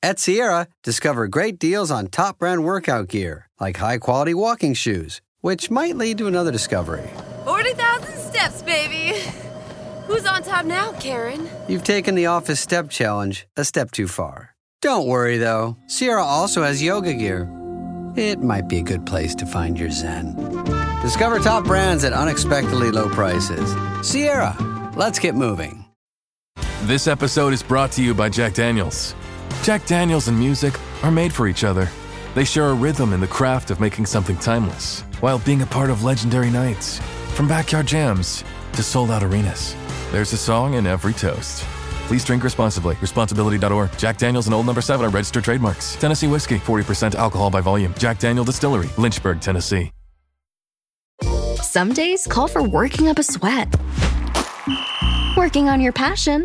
At Sierra, discover great deals on top brand workout gear, like high-quality walking shoes, which might lead to another discovery. 40,000 steps, baby. Who's on top now, Karen? You've taken the office step challenge a step too far. Don't worry, though. Sierra also has yoga gear. It might be a good place to find your zen. Discover top brands at unexpectedly low prices. Sierra, let's get moving. This episode is brought to you by Jack Daniels. Jack Daniels and music are made for each other. They share a rhythm in the craft of making something timeless, while being a part of legendary nights. From backyard jams to sold-out arenas, there's a song in every toast. Please drink responsibly. Responsibility.org. Jack Daniels and Old No. 7 are registered trademarks. Tennessee whiskey, 40% alcohol by volume. Jack Daniel Distillery, Lynchburg, Tennessee. Some days call for working up a sweat, working on your passion,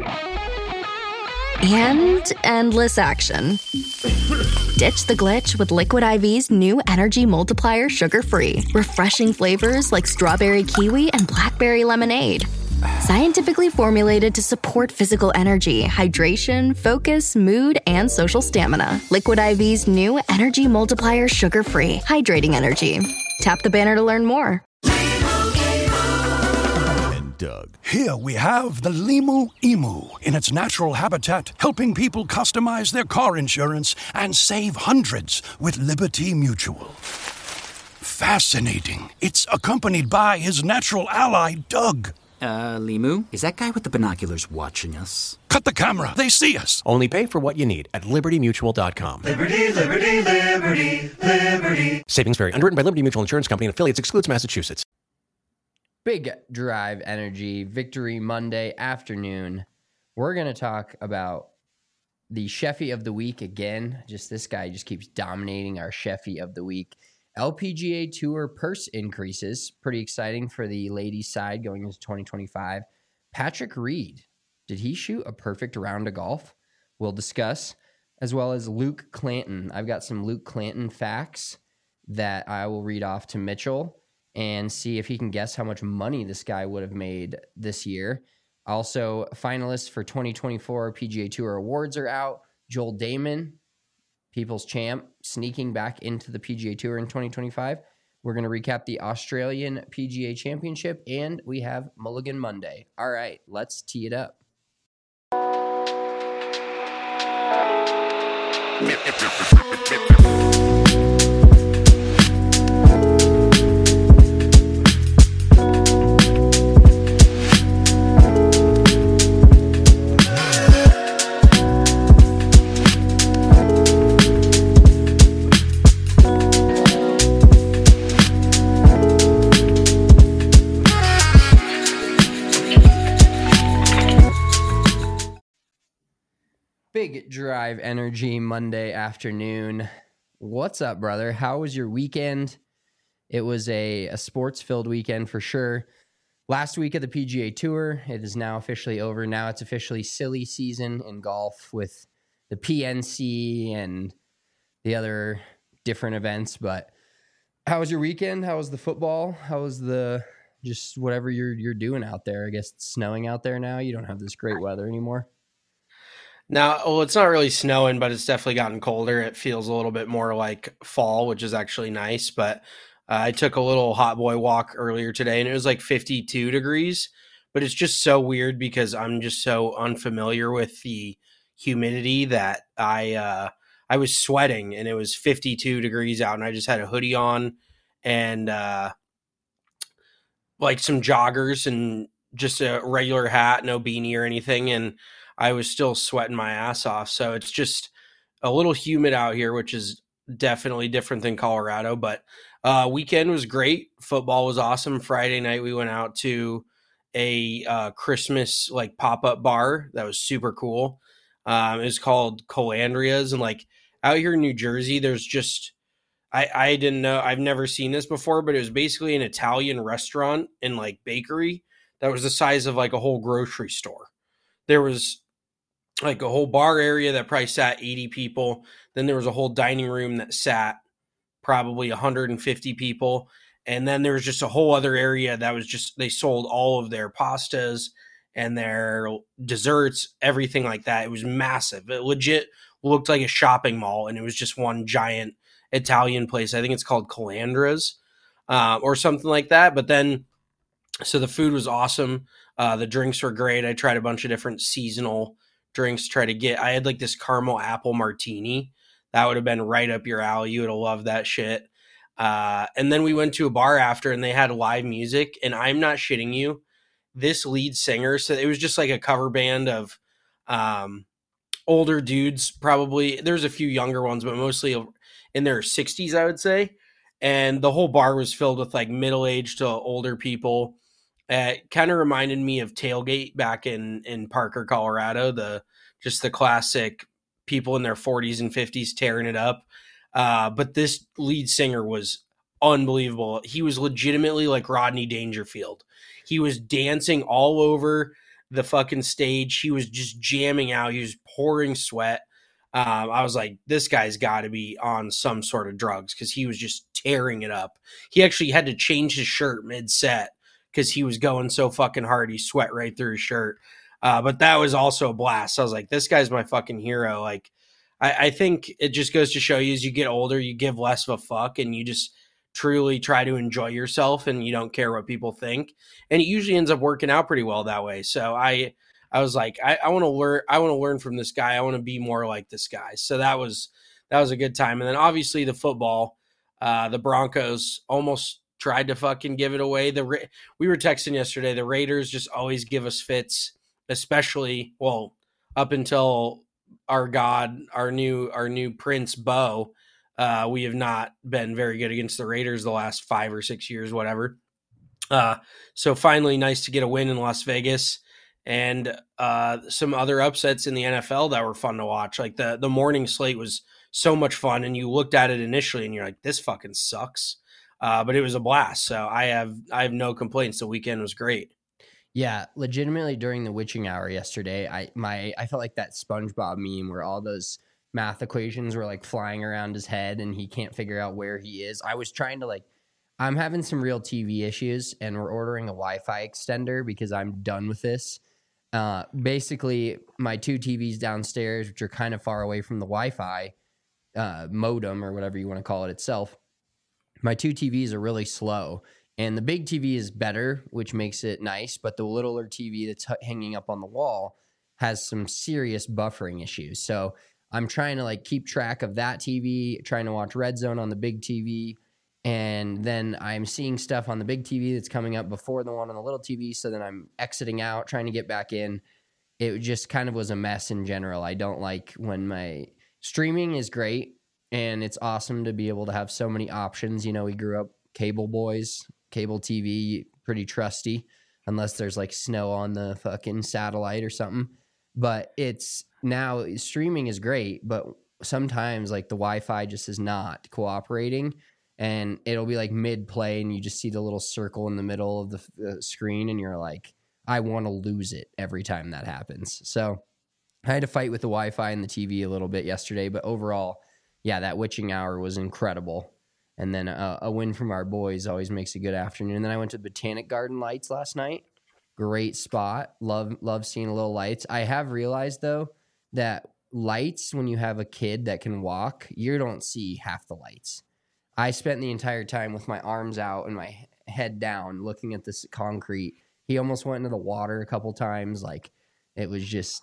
and endless action. Ditch the glitch with Liquid IV's new Energy Multiplier Sugar-Free. Refreshing flavors like strawberry kiwi and blackberry lemonade. Scientifically formulated to support physical energy, hydration, focus, mood, and social stamina. Liquid IV's new Energy Multiplier Sugar-Free. Hydrating energy. Tap the banner to learn more. Doug. Here we have the Limu Emu in its natural habitat, helping people customize their car insurance and save hundreds with Liberty Mutual. Fascinating. It's accompanied by his natural ally, Doug. Limu? Is that guy with the binoculars watching us? Cut the camera. They see us. Only pay for what you need at LibertyMutual.com. Liberty, liberty, liberty, liberty. Savings vary. Underwritten by Liberty Mutual Insurance Company and affiliates. Excludes Massachusetts. Big Drive Energy Victory Monday afternoon. We're going to talk about the Sheffy of the Week again. This guy just keeps dominating our Sheffy of the Week. LPGA Tour purse increases. Pretty exciting for the ladies' side going into 2025. Patrick Reed. Did he shoot a perfect round of golf? We'll discuss. As well as Luke Clanton. I've got some Luke Clanton facts that I will read off to Mitchell and see if he can guess how much money this guy would have made this year. Also, finalists for 2024 PGA Tour awards are out. Joel Damon, People's Champ, sneaking back into the PGA Tour in 2025. We're going to recap the Australian PGA Championship, and we have Mulligan Monday. All right, let's tee it up. Big Drive Energy Monday afternoon. What's up, brother? How was your weekend? It was a sports-filled weekend for sure. Last week of the PGA Tour, it is now officially over. Now it's officially silly season in golf with the PNC and the other different events. But how was your weekend? How was the football? How was the just whatever you're doing out there? I guess it's snowing out there now. You don't have this great weather anymore. Now, well, it's not really snowing, but it's definitely gotten colder. It feels a little bit more like fall, which is actually nice. But I took a little hot boy walk earlier today, and it was like 52 degrees. But it's just so weird because I'm just so unfamiliar with the humidity that I was sweating, and it was 52 degrees out, and I just had a hoodie on and like some joggers and just a regular hat, no beanie or anything, and I was still sweating my ass off. So it's just a little humid out here, which is definitely different than Colorado. But weekend was great. Football was awesome. Friday night we went out to a Christmas like pop-up bar that was super cool. It was called Colandria's, and like out here in New Jersey, there's just I didn't know, I've never seen this before, but it was basically an Italian restaurant and like bakery that was the size of like a whole grocery store. There was like a whole bar area that probably sat 80 people. Then there was a whole dining room that sat probably 150 people. And then there was just a whole other area that was just, they sold all of their pastas and their desserts, everything like that. It was massive. It legit looked like a shopping mall, and it was just one giant Italian place. I think it's called Calandra's or something like that. But then, so the food was awesome. The drinks were great. I tried a bunch of different seasonal drinks. I had like this caramel apple martini. That would have been right up your alley. You would have loved that shit. And then we went to a bar after, and they had live music. And I'm not shitting you, this lead singer, so it was just like a cover band of older dudes. Probably there's a few younger ones, but mostly in their 60s, I would say. And the whole bar was filled with like middle-aged to older people. It kind of reminded me of Tailgate back in Parker, Colorado. The classic people in their 40s and 50s tearing it up. But this lead singer was unbelievable. He was legitimately like Rodney Dangerfield. He was dancing all over the fucking stage. He was just jamming out. He was pouring sweat. I was like, this guy's got to be on some sort of drugs because he was just tearing it up. He actually had to change his shirt mid-set because he was going so fucking hard. He sweat right through his shirt. But that was also a blast. I was like, this guy's my fucking hero. Like, I think it just goes to show you as you get older, you give less of a fuck and you just truly try to enjoy yourself and you don't care what people think. And it usually ends up working out pretty well that way. So I was like, I want to learn. I want to learn from this guy. I want to be more like this guy. So that was a good time. And then obviously the football, the Broncos almost tried to fucking give it away. We were texting yesterday. The Raiders just always give us fits, especially up until our new Prince Bo. We have not been very good against the Raiders the last 5 or 6 years, whatever. So finally, nice to get a win in Las Vegas. And some other upsets in the NFL that were fun to watch. Like the morning slate was so much fun, and you looked at it initially and you're like, this fucking sucks. But it was a blast. So I have no complaints. The weekend was great. Yeah, legitimately during the witching hour yesterday, I felt like that SpongeBob meme where all those math equations were like flying around his head and he can't figure out where he is. I was trying to I'm having some real TV issues, and we're ordering a Wi-Fi extender because I'm done with this. Basically, my 2 TVs downstairs, which are kind of far away from the Wi-Fi modem or whatever you want to call it itself, my 2 TVs are really slow. And the big TV is better, which makes it nice, but the littler TV that's hanging up on the wall has some serious buffering issues. So I'm trying to keep track of that TV, trying to watch Red Zone on the big TV. And then I'm seeing stuff on the big TV that's coming up before the one on the little TV. So then I'm exiting out, trying to get back in. It just kind of was a mess in general. I don't like when my streaming is great and it's awesome to be able to have so many options. You know, we grew up cable boys, cable TV, pretty trusty, unless there's snow on the fucking satellite or something. But it's now streaming is great, but sometimes the Wi-Fi just is not cooperating. And it'll be mid-play and you just see the little circle in the middle of the screen and you're like, I want to lose it every time that happens. So I had to fight with the Wi-Fi and the TV a little bit yesterday, but overall, yeah, that witching hour was incredible. And then a win from our boys always makes a good afternoon. And then I went to Botanic Garden Lights last night. Great spot. Love seeing little lights. I have realized, though, that lights, when you have a kid that can walk, you don't see half the lights. I spent the entire time with my arms out and my head down looking at this concrete. He almost went into the water a couple times. It was just,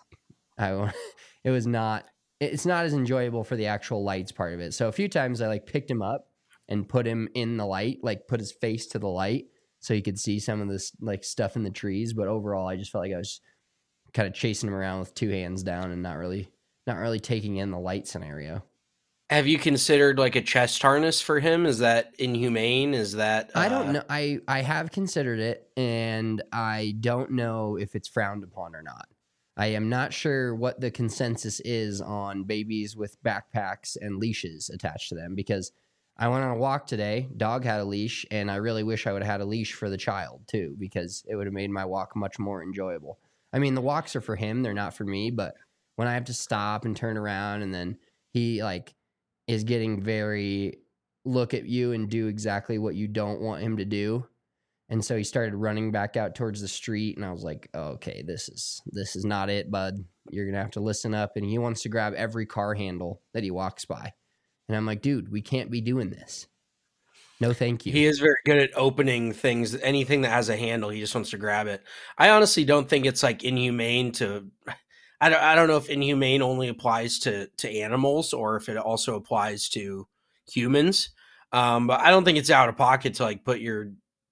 it's not as enjoyable for the actual lights part of it. So a few times I picked him up and put him in the light, put his face to the light so you could see some of this stuff in the trees. But overall, I just felt like I was kind of chasing him around with 2 hands down and not really taking in the light scenario. Have you considered a chest harness for him? Is that inhumane? Is that I don't know. I have considered it, and I don't know if it's frowned upon or not. I am not sure what the consensus is on babies with backpacks and leashes attached to them, because I went on a walk today. Dog had a leash, and I really wish I would have had a leash for the child too, because it would have made my walk much more enjoyable. I mean, the walks are for him; they're not for me. But when I have to stop and turn around, and then he is getting very look at you and do exactly what you don't want him to do, And so he started running back out towards the street, and I was like, oh, okay, this is not it, bud. You're going to have to listen up. And he wants to grab every car handle that he walks by. And I'm like, dude, we can't be doing this. No, thank you. He is very good at opening things. Anything that has a handle, he just wants to grab it. I honestly don't think it's like inhumane to. I don't know if inhumane only applies to animals or if it also applies to humans. But I don't think it's out of pocket to like put your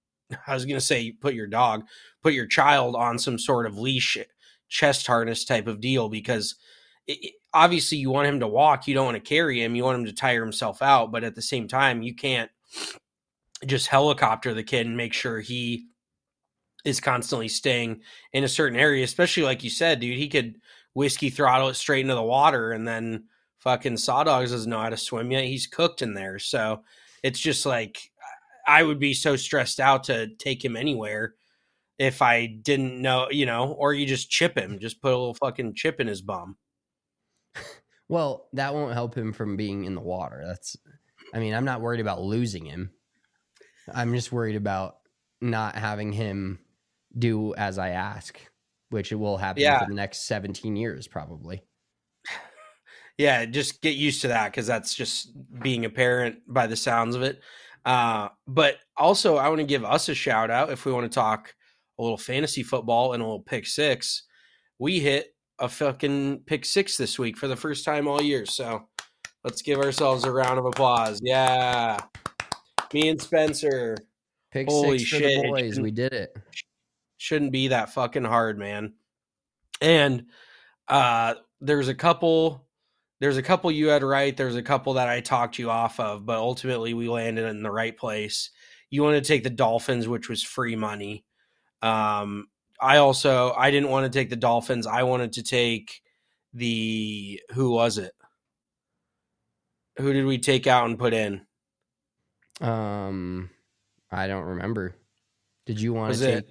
child on some sort of leash, chest harness type of deal, because obviously you want him to walk. You don't want to carry him. You want him to tire himself out. But at the same time, you can't just helicopter the kid and make sure he is constantly staying in a certain area, especially like you said, dude, he could whiskey throttle it straight into the water, and then fucking Sawdogs doesn't know how to swim yet. He's cooked in there. So it's just like, I would be so stressed out to take him anywhere if I didn't know, or you just chip him, just put a little fucking chip in his bum. Well, that won't help him from being in the water. I'm not worried about losing him. I'm just worried about not having him do as I ask, which it will happen for the next 17 years, probably. Yeah, just get used to that, because that's just being a parent by the sounds of it. But also, I want to give us a shout out if we want to talk a little fantasy football and a little pick six. We hit a fucking pick six this week for the first time all year. So let's give ourselves a round of applause. Yeah. Me and Spencer. Pick Holy six for shit. the boys. We did it. Shouldn't be that fucking hard, man. And there's a couple you had right. There's a couple that I talked you off of, but ultimately we landed in the right place. You wanted to take the Dolphins, which was free money. I didn't want to take the Dolphins. I wanted to take who was it? Who did we take out and put in? I don't remember. Did you want to take?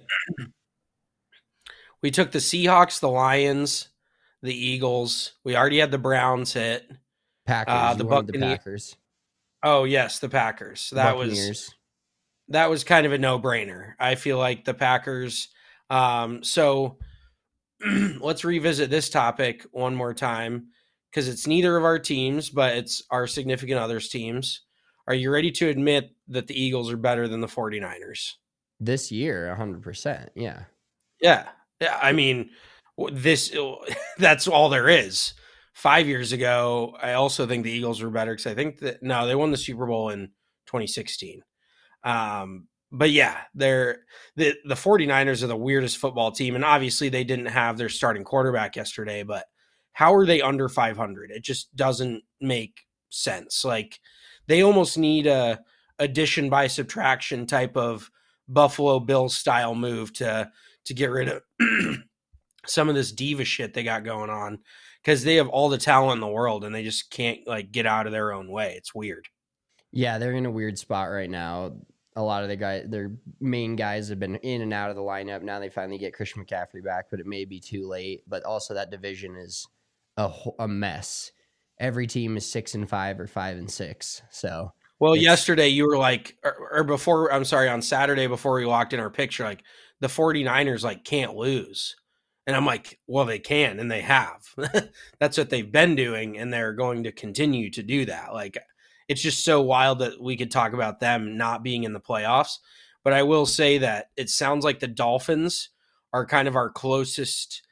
We took the Seahawks, the Lions, the Eagles. We already had the Browns hit. Packers. The Packers. Oh yes, the Packers. That was kind of a no-brainer. I feel like the Packers. So let's revisit this topic one more time, because it's neither of our teams, but it's our significant others' teams. Are you ready to admit that the Eagles are better than the 49ers? This year, 100%. Yeah. Yeah. I mean, that's all there is. 5 years ago, I also think the Eagles were better, because I think they won the Super Bowl in 2016. But yeah, the 49ers are the weirdest football team, and obviously they didn't have their starting quarterback yesterday, but how are they under 500? It just doesn't make sense. Like, they almost need a addition by subtraction type of Buffalo Bills style move to get rid of some of this diva shit they got going on, because they have all the talent in the world and they just can't like get out of their own way. It's weird. Yeah, they're in a weird spot right now. A lot of their main guys have been in and out of the lineup. Now they finally get Christian McCaffrey back, but it may be too late. But also that division is a mess. Every team is 6-5 or 5-6. So, well, yesterday you were like, on Saturday before we walked in our picture, like the 49ers like can't lose. And I'm like, well, they can, and they have. That's what they've been doing, and they're going to continue to do that. Like, it's just so wild that we could talk about them not being in the playoffs. But I will say that it sounds like the Dolphins are kind of our closest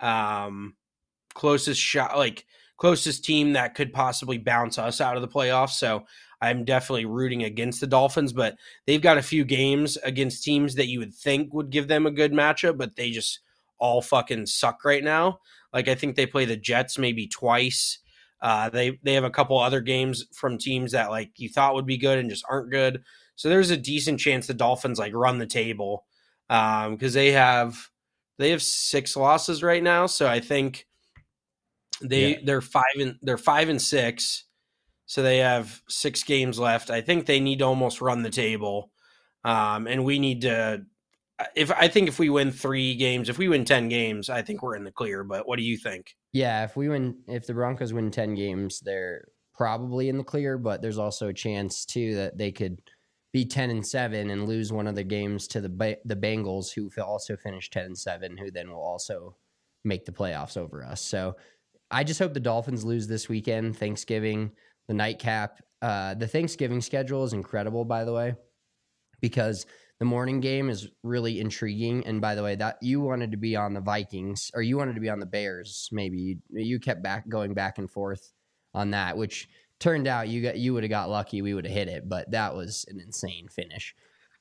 team that could possibly bounce us out of the playoffs. So I'm definitely rooting against the Dolphins, but they've got a few games against teams that you would think would give them a good matchup, but they just all fucking suck right now. Like, I think they play the Jets maybe twice. They have a couple other games from teams that like you thought would be good and just aren't good. So there's a decent chance the Dolphins like run the table, because they have 6 losses right now. So I think they're 5-6. So they have 6 games left. I think they need to almost run the table, and we need to. If we win 3 games, if we win 10 games, I think we're in the clear. But what do you think? Yeah, if the Broncos win 10 games, they're probably in the clear, but there's also a chance too that they could be 10-7 and lose one of the games to the Bengals, who also finished 10-7, who then will also make the playoffs over us. So I just hope the Dolphins lose this weekend. Thanksgiving, the nightcap. The Thanksgiving schedule is incredible, by the way, because the morning game is really intriguing. And by the way, that you wanted to be on the Vikings, or you wanted to be on the Bears. Maybe you kept going back and forth on that, which turned out you would have got lucky. We would have hit it, but that was an insane finish.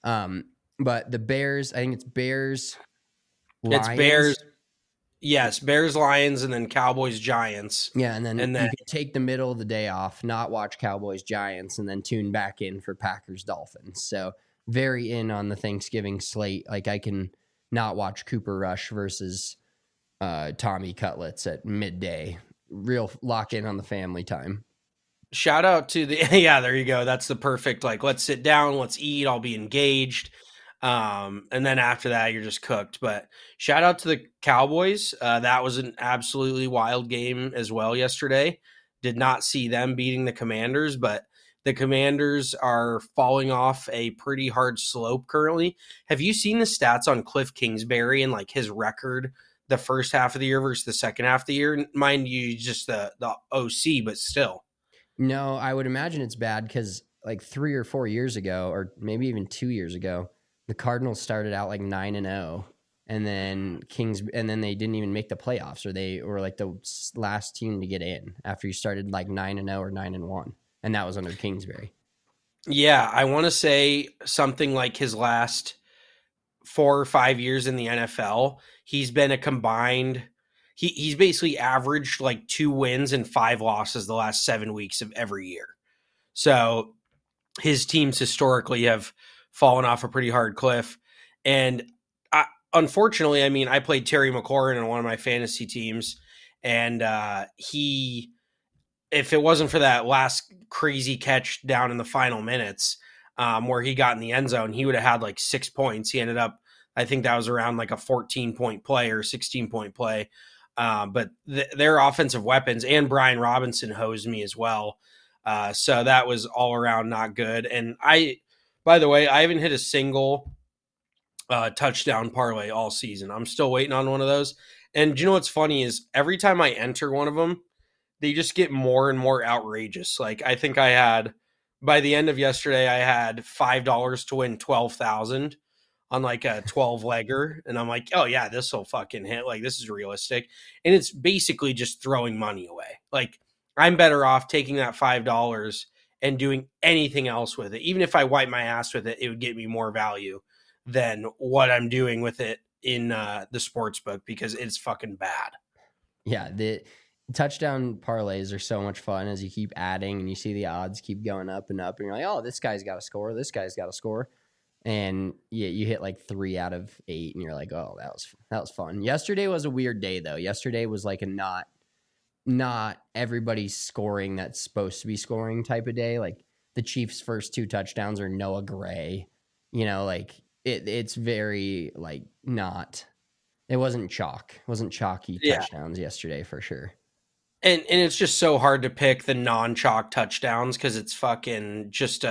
But the Bears, I think it's Bears. Lions. It's Bears. Yes, Bears, Lions, and then Cowboys, Giants. Yeah, and then you can take the middle of the day off, not watch Cowboys, Giants, and then tune back in for Packers, Dolphins. So very in on the Thanksgiving slate. Like I can not watch Cooper Rush versus Tommy Cutlets at midday. Real lock in on the family time. Shout out to yeah, there you go. That's the perfect, like, let's sit down, let's eat, I'll be engaged. And then after that, you're just cooked. But shout out to the Cowboys. That was an absolutely wild game as well yesterday. Did not see them beating the Commanders, but the Commanders are falling off a pretty hard slope currently. Have you seen the stats on Cliff Kingsbury and like his record the first half of the year versus the second half of the year? Mind you, just the OC, but still. No, I would imagine it's bad because like 3 or 4 years ago, or maybe even 2 years ago, the Cardinals started out like 9-0, and then they didn't even make the playoffs, or they were like the last team to get in after you started like 9-0 or 9-1, and that was under Kingsbury. Yeah, I want to say something like his last 4 or 5 years in the NFL, he's been a combined. He's basically averaged like 2 wins and 5 losses the last 7 weeks of every year. So his teams historically have fallen off a pretty hard cliff. And unfortunately, I mean, I played Terry McLaurin on one of my fantasy teams. And if it wasn't for that last crazy catch down in the final minutes where he got in the end zone, he would have had like 6 points. He ended up, I think that was around like a 14-point play or 16-point play. But their offensive weapons, and Brian Robinson hosed me as well. So that was all around not good. And by the way, I haven't hit a single touchdown parlay all season. I'm still waiting on one of those. And you know what's funny is every time I enter one of them, they just get more and more outrageous. Like I think by the end of yesterday, I had $5 to win 12,000 on like a 12-legger. And I'm like, oh yeah, this will fucking hit. Like this is realistic. And it's basically just throwing money away. Like I'm better off taking that $5 and doing anything else with it. Even if I wipe my ass with it, it would get me more value than what I'm doing with it in the sports book, because it's fucking bad. Yeah. The touchdown parlays are so much fun as you keep adding and you see the odds keep going up and up, and you're like, oh, this guy's got to score. This guy's got to score. And yeah, you hit like 3 out of 8 and you're like, oh, that was fun. Yesterday was a weird day though. Yesterday was like a not everybody's scoring that's supposed to be scoring type of day. Like the Chiefs' first 2 touchdowns are Noah Gray. You know, like it's very like it wasn't chalk. It wasn't chalky touchdowns yesterday for sure. And it's just so hard to pick the non-chalk touchdowns because it's fucking just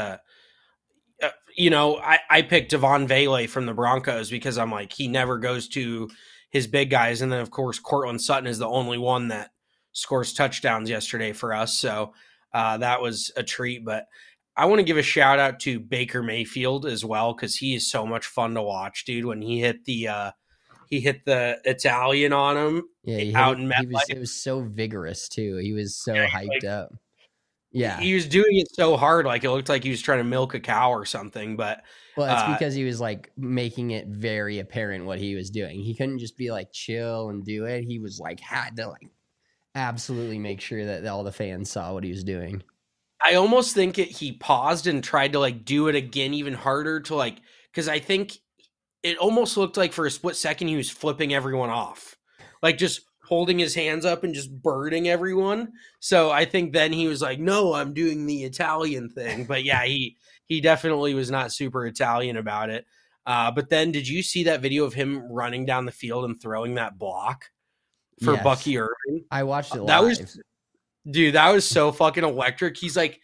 I picked Devon Vele from the Broncos because I'm like, he never goes to his big guys. And then, of course, Cortland Sutton is the only one that scores touchdowns yesterday for us. So that was a treat. But I want to give a shout out to Baker Mayfield as well, because he is so much fun to watch, dude. When he hit the Italian on him out in MetLife. It was so vigorous, too. He was so hyped up. Yeah, he was doing it so hard, like it looked like he was trying to milk a cow or something. But it's because he was like making it very apparent what he was doing. He couldn't just be like chill and do it. He was like had to like absolutely make sure that all the fans saw what he was doing. I almost think he paused and tried to like do it again even harder to like, because I think it almost looked like for a split second he was flipping everyone off, like just holding his hands up and just birding everyone. So I think then he was like, no, I'm doing the Italian thing. But yeah, he definitely was not super Italian about it. But then did you see that video of him running down the field and throwing that block for Bucky Irving? I watched it live. That was Dude, that was so fucking electric. He's like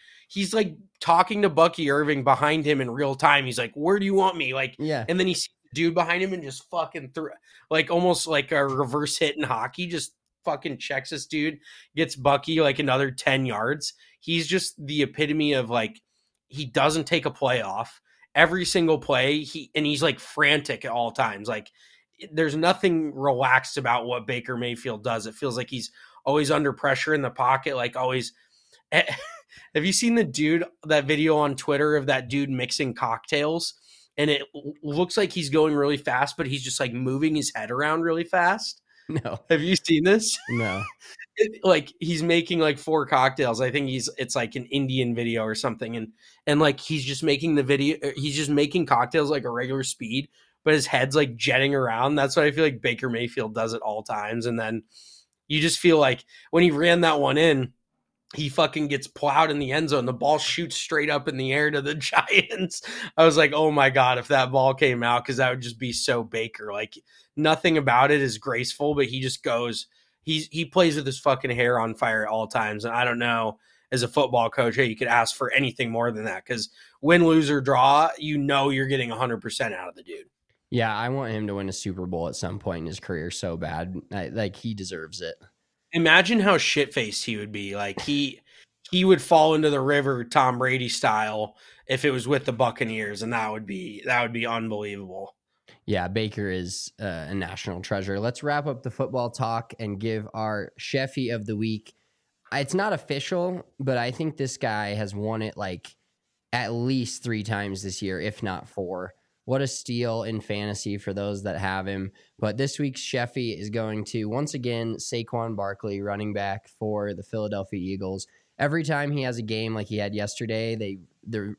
talking to Bucky Irving behind him in real time. He's like, "Where do you want me?" Like, Yeah. And then he sees the dude behind him and just fucking threw, like almost like a reverse hit in hockey. Just fucking checks this dude, gets Bucky like another 10 yards. He's just the epitome of like, he doesn't take a play off. Every single play, he's like frantic at all times. Like, there's nothing relaxed about what Baker Mayfield does. It feels like he's always under pressure in the pocket, like always. Have you seen that video on Twitter of that dude mixing cocktails? And it looks like he's going really fast, but he's just like moving his head around really fast. No. Have you seen this? No. Like he's making like 4 cocktails. I think it's like an Indian video or something. And like he's just making he's just making cocktails like a regular speed, but his head's like jetting around. That's what I feel like Baker Mayfield does at all times. And then you just feel like when he ran that one in, he fucking gets plowed in the end zone. The ball shoots straight up in the air to the Giants. I was like, oh my God, if that ball came out, because that would just be so Baker. Like nothing about it is graceful, but he just goes, he plays with his fucking hair on fire at all times. And I don't know, as a football coach, hey, you could ask for anything more than that, because win, lose, or draw, you're getting 100% out of the dude. Yeah, I want him to win a Super Bowl at some point in his career so bad. Like he deserves it. Imagine how shit-faced he would be. Like he would fall into the river Tom Brady style if it was with the Buccaneers, and that would be unbelievable. Yeah, Baker is a national treasure. Let's wrap up the football talk and give our Sheffy of the week. It's not official, but I think this guy has won it like at least 3 times this year, if not 4. What a steal in fantasy for those that have him. But this week's Sheffy is going to, once again, Saquon Barkley, running back for the Philadelphia Eagles. Every time he has a game like he had yesterday, the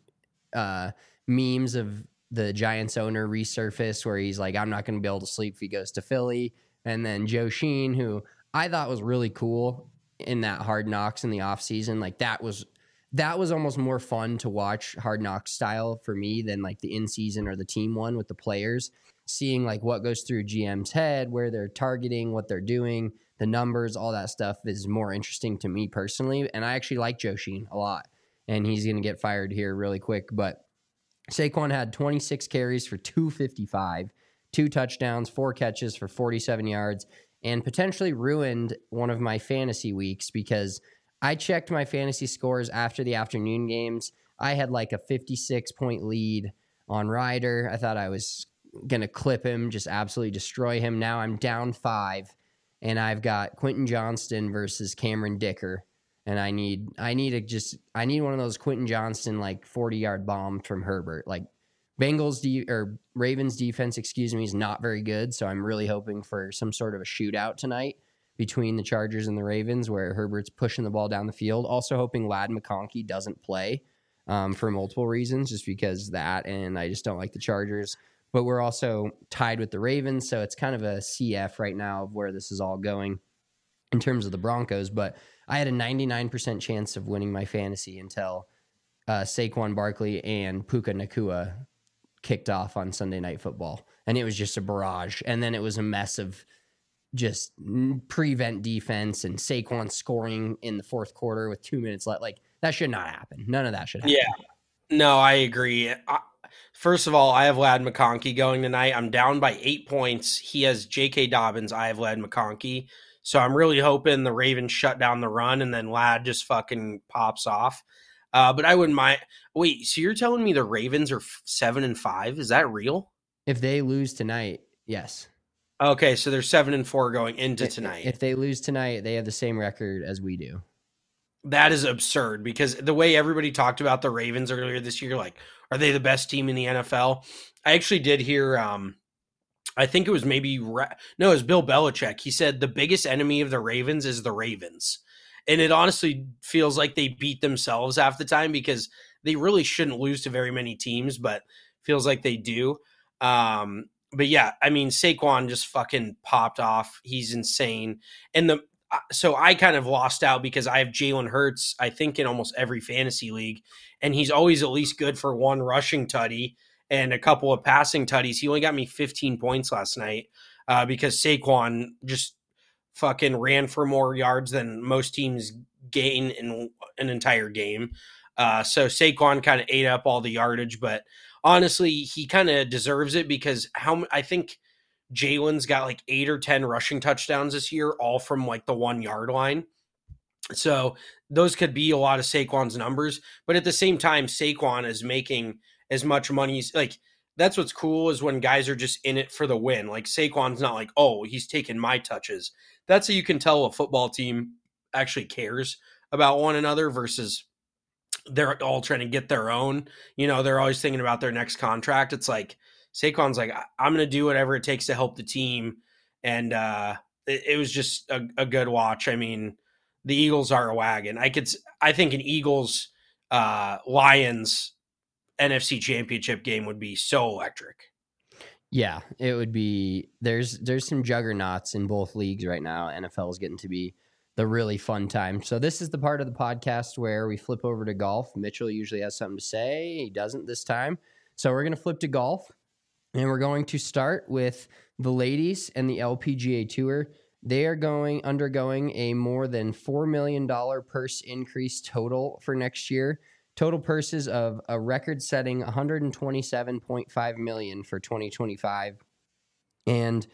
memes of the Giants owner resurface where he's like, I'm not going to be able to sleep if he goes to Philly. And then Joe Sheen, who I thought was really cool in that Hard Knocks in the offseason. Like that was almost more fun to watch Hard Knocks style for me than like the in-season or the team one with the players. Seeing like what goes through GM's head, where they're targeting, what they're doing, the numbers, all that stuff is more interesting to me personally. And I actually like Joe Sheen a lot. And he's going to get fired here really quick. But Saquon had 26 carries for 255, 2 touchdowns, 4 catches for 47 yards, and potentially ruined one of my fantasy weeks because I checked my fantasy scores after the afternoon games. I had like a 56-point lead on Ryder. I thought I was going to clip him, just absolutely destroy him. Now I'm down 5, and I've got Quentin Johnston versus Cameron Dicker. And I need one of those Quentin Johnston like 40-yard bomb from Herbert. Like Ravens defense, is not very good. So I'm really hoping for some sort of a shootout tonight between the Chargers and the Ravens where Herbert's pushing the ball down the field. Also hoping Ladd McConkey doesn't play for multiple reasons, just because that, and I just don't like the Chargers. But we're also tied with the Ravens, so it's kind of a CF right now of where this is all going in terms of the Broncos. But I had a 99% chance of winning my fantasy until Saquon Barkley and Puka Nacua kicked off on Sunday Night Football. And it was just a barrage. And then it was a mess of just prevent defense and Saquon scoring in the fourth quarter with 2 minutes left. Like, that should not happen. None of that should happen. Yeah. No, I agree. First of all, I have Ladd McConkey going tonight. I'm down by 8 points. He has J.K. Dobbins. I have Ladd McConkey. So I'm really hoping the Ravens shut down the run and then Ladd just fucking pops off. But I wouldn't mind. Wait, so you're telling me the Ravens are 7-5? Is that real? If they lose tonight, yes. Okay, so they're 7-4 going into tonight. If they lose tonight, they have the same record as we do. That is absurd because the way everybody talked about the Ravens earlier this year, like, are they the best team in the NFL? I actually did hear, I think it was it was Bill Belichick. He said the biggest enemy of the Ravens is the Ravens. And it honestly feels like they beat themselves half the time because they really shouldn't lose to very many teams, but feels like they do. But yeah, I mean, Saquon just fucking popped off. He's insane. And so I kind of lost out because I have Jalen Hurts, I think, in almost every fantasy league. And he's always at least good for 1 rushing tutty and a couple of passing tutties. He only got me 15 points last night because Saquon just fucking ran for more yards than most teams gain in an entire game. So Saquon kind of ate up all the yardage, but honestly, he kind of deserves it because I think Jalen's got like 8 or 10 rushing touchdowns this year, all from like the 1 yard line. So those could be a lot of Saquon's numbers, but at the same time, Saquon is making as much money. Like, that's what's cool is when guys are just in it for the win. Like Saquon's not like, oh, he's taking my touches. That's how you can tell a football team actually cares about one another versus they're all trying to get their own. You know, they're always thinking about their next contract. It's like Saquon's like, I'm going to do whatever it takes to help the team. And it was just a good watch. I mean, the Eagles are a wagon. I think an Eagles Lions NFC Championship game would be so electric. Yeah, it would be. There's some juggernauts in both leagues right now. NFL is getting to be the really fun time. So this is the part of the podcast where we flip over to golf. Mitchell usually has something to say. He doesn't this time. So we're going to flip to golf, and we're going to start with the ladies and the LPGA Tour. They are undergoing a more than $4 million purse increase total for next year. Total purses of a record-setting $127.5 million for 2025. And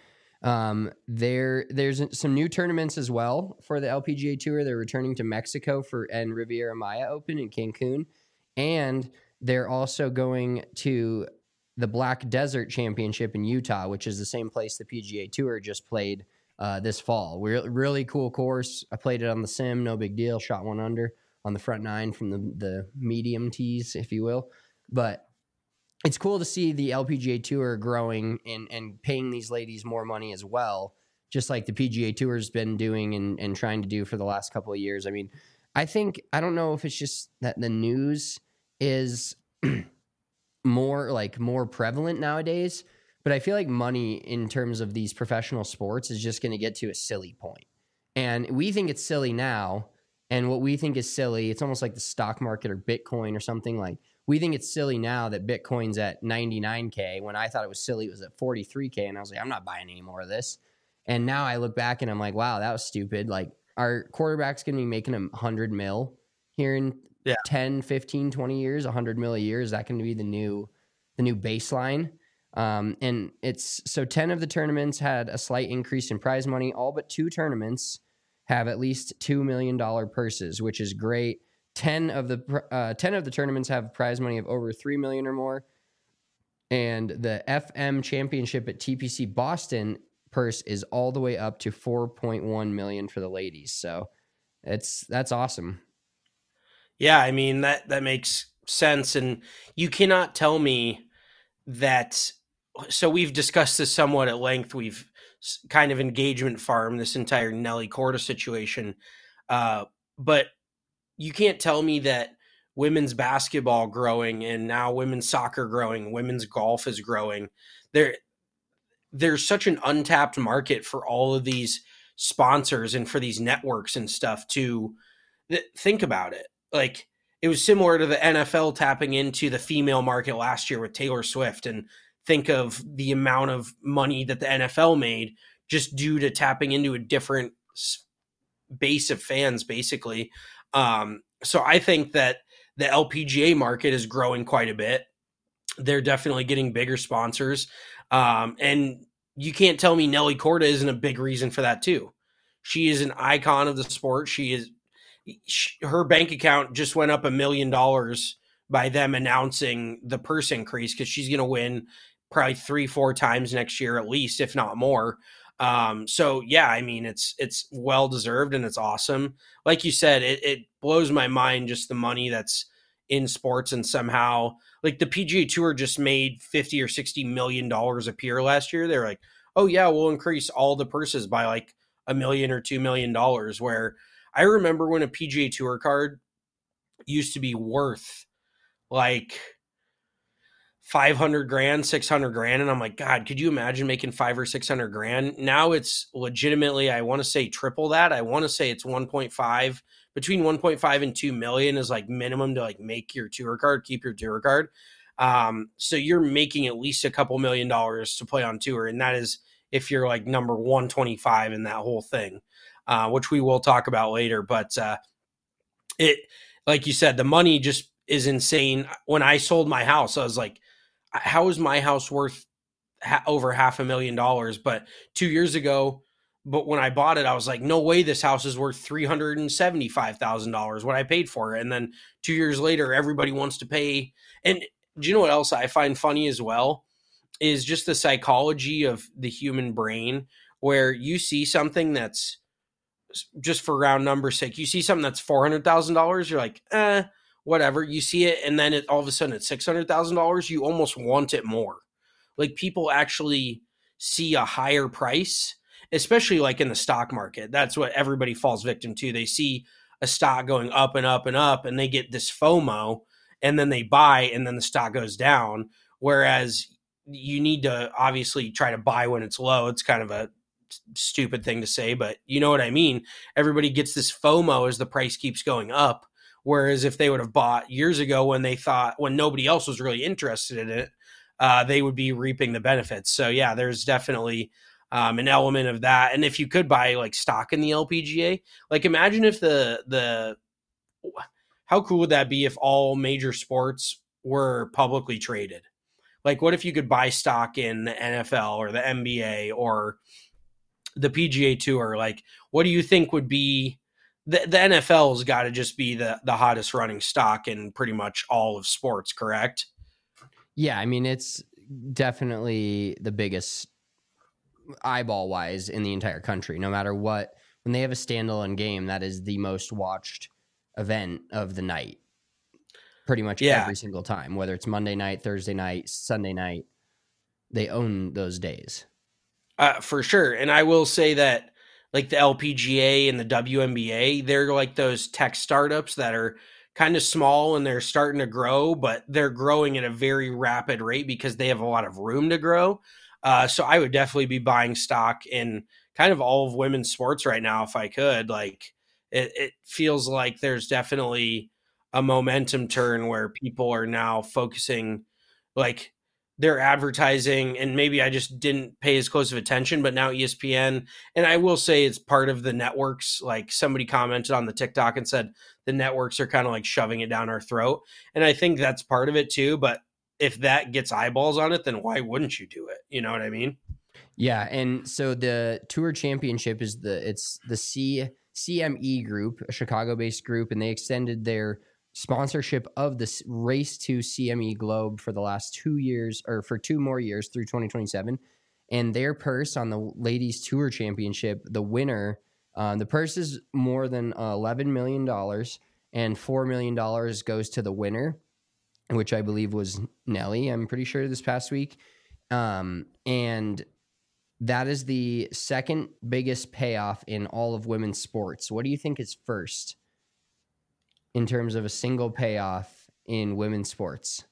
there's some new tournaments as well for the LPGA Tour. They're returning to Mexico and Riviera Maya Open in Cancun. And they're also going to the Black Desert Championship in Utah, which is the same place the PGA Tour just played this fall. Really cool course. I played it on the sim, no big deal. Shot 1 under on the front 9 from the medium tees, if you will. But it's cool to see the LPGA Tour growing and paying these ladies more money as well, just like the PGA Tour has been doing and trying to do for the last couple of years. I mean, I don't know if it's just that the news is more prevalent nowadays, but I feel like money in terms of these professional sports is just going to get to a silly point. And we think it's silly now. And what we think is silly, it's almost like the stock market or Bitcoin or something. Like, we think it's silly now that Bitcoin's at 99K. When I thought it was silly, it was at 43K. And I was like, I'm not buying any more of this. And now I look back and I'm like, wow, that was stupid. Like, our quarterback's going to be making $100 million here in 10, 15, 20 years, $100 million a year. Is that going to be the new baseline? And so 10 of the tournaments had a slight increase in prize money. All but 2 tournaments have at least $2 million purses, which is great. 10 of the tournaments have prize money of over $3 million or more. And the FM Championship at TPC Boston purse is all the way up to $4.1 million for the ladies. So that's awesome. Yeah, I mean, that makes sense. And you cannot tell me that. So we've discussed this somewhat at length. We've kind of engagement farm this entire Nelly Korda situation. But you can't tell me that women's basketball growing and now women's soccer growing, women's golf is growing. There's such an untapped market for all of these sponsors and for these networks and stuff to think about it. Like, it was similar to the NFL tapping into the female market last year with Taylor Swift, and think of the amount of money that the NFL made just due to tapping into a different base of fans, basically. So I think that the LPGA market is growing quite a bit. They're definitely getting bigger sponsors. And you can't tell me Nelly Korda isn't a big reason for that too. She is an icon of the sport. Her bank account just went up $1 million by them announcing the purse increase, because she's going to win probably 3-4 times next year at least, if not more. So yeah, I mean, it's well deserved and it's awesome. Like you said, it blows my mind just the money that's in sports, and somehow, like, the PGA Tour just made $50 or $60 million a year last year. They're like, oh yeah, we'll increase all the purses by like $1 million or $2 million. Where I remember when a PGA Tour card used to be worth like $500,000, $600,000. And I'm like, God, could you imagine making $500,000 or $600,000? Now it's legitimately, I want to say triple that. I want to say it's between 1.5 and 2 million is like minimum to like make your tour card, keep your tour card. So you're making at least a couple $1 million to play on tour. And that is if you're like number 125 in that whole thing, which we will talk about later. But it, like you said, the money just is insane. When I sold my house, I was like, how is my house worth over $500,000? But 2 years ago, but when I bought it, I was like, no way this house is worth $375,000 what I paid for it. And then 2 years later, everybody wants to pay. And do you know what else I find funny as well? Is just the psychology of the human brain, where you see something that's, just for round number sake, you see something that's $400,000, you're like, whatever. You see it, and then all of a sudden it's $600,000. You almost want it more. Like, people actually see a higher price, especially like in the stock market. That's what everybody falls victim to. They see a stock going up and up and up, and they get this FOMO, and then they buy, and then the stock goes down. Whereas you need to obviously try to buy when it's low. It's kind of a stupid thing to say, but you know what I mean? Everybody gets this FOMO as the price keeps going up. Whereas if they would have bought years ago when nobody else was really interested in it, they would be reaping the benefits. So yeah, there's definitely an element of that. And if you could buy like stock in the LPGA, like imagine if how cool would that be if all major sports were publicly traded? Like, what if you could buy stock in the NFL or the NBA or the PGA Tour? Like, what do you think would be the NFL's got to just be the hottest running stock in pretty much all of sports, correct? Yeah, I mean, it's definitely the biggest eyeball wise in the entire country. No matter what, when they have a standalone game, that is the most watched event of the night. Pretty much every single time, whether it's Monday night, Thursday night, Sunday night, they own those days. For sure. And I will say that like the LPGA and the WNBA, they're like those tech startups that are kind of small and they're starting to grow, but they're growing at a very rapid rate because they have a lot of room to grow. So I would definitely be buying stock in kind of all of women's sports right now if I could. Like, it feels like there's definitely a momentum turn where people are now focusing, like, their advertising, and maybe I just didn't pay as close of attention, but now ESPN, and I will say it's part of the networks. Like, somebody commented on the TikTok and said the networks are kind of like shoving it down our throat. And I think that's part of it too. But if that gets eyeballs on it, then why wouldn't you do it? You know what I mean? Yeah. And so the Tour Championship is the CME group, a Chicago-based group, and they extended their sponsorship of this race to CME Globe for the last 2 years, or for 2 more years through 2027. And their purse on the Ladies Tour Championship, the winner, the purse is more than $11 million, and $4 million goes to the winner, which I believe was Nelly, I'm pretty sure, this past week. And that is the second biggest payoff in all of women's sports. What do you think is first in terms of a single payoff in women's sports?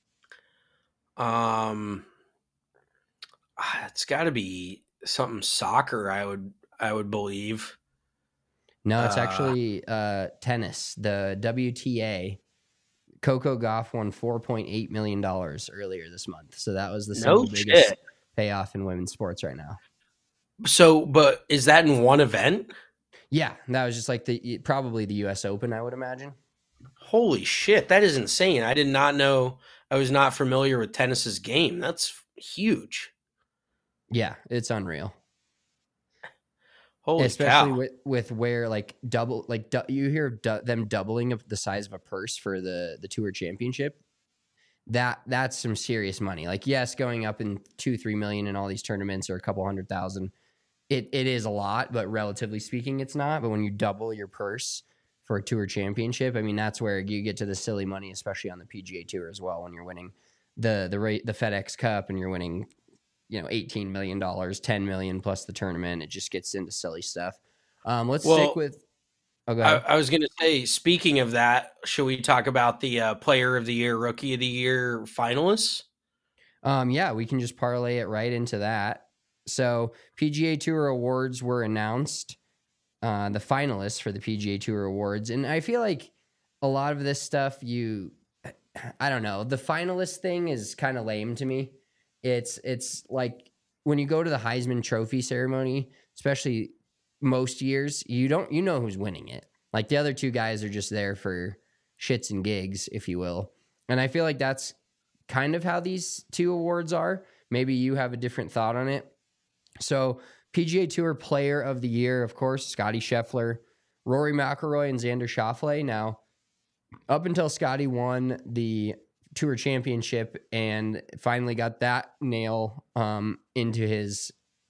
It's got to be something soccer, I would believe. No, it's actually tennis. The WTA. Coco Gauff won $4.8 million earlier this month. So that was the single biggest payoff in women's sports right now. So, but is that in one event? Yeah, that was just like probably the U.S. Open, I would imagine. Holy shit, that is insane. I did not know. I was not familiar with tennis's game. That's huge. Yeah, it's unreal. Holy especially cow. with where like you hear them doubling of the size of a purse for the Tour Championship. That's some serious money. Like, yes, going up in 2-3 million in all these tournaments or a couple 100,000, it is a lot, but relatively speaking, it's not. But when you double your purse for a Tour Championship, I mean, that's where you get to the silly money, especially on the PGA Tour as well. When you're winning the FedEx Cup and you're winning, $18 million, $10 million plus the tournament, it just gets into silly stuff. Let's stick with. I was going to say, speaking of that, should we talk about the Player of the Year, Rookie of the Year finalists? Yeah, we can just parlay it right into that. So PGA Tour awards were announced, the finalists for the PGA Tour awards. And I feel like a lot of this stuff, I don't know, the finalist thing is kind of lame to me. It's like when you go to the Heisman Trophy ceremony, especially most years, you know who's winning it. Like the other two guys are just there for shits and gigs, if you will. And I feel like that's kind of how these two awards are. Maybe you have a different thought on it. So PGA Tour Player of the Year, of course, Scotty Scheffler, Rory McIlroy, and Xander Schauffele. Now, up until Scotty won the Tour Championship and finally got that nail into his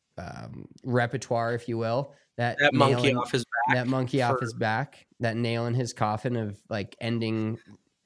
repertoire, if you will, that monkey off his back. That monkey off his back, that nail in his coffin of like ending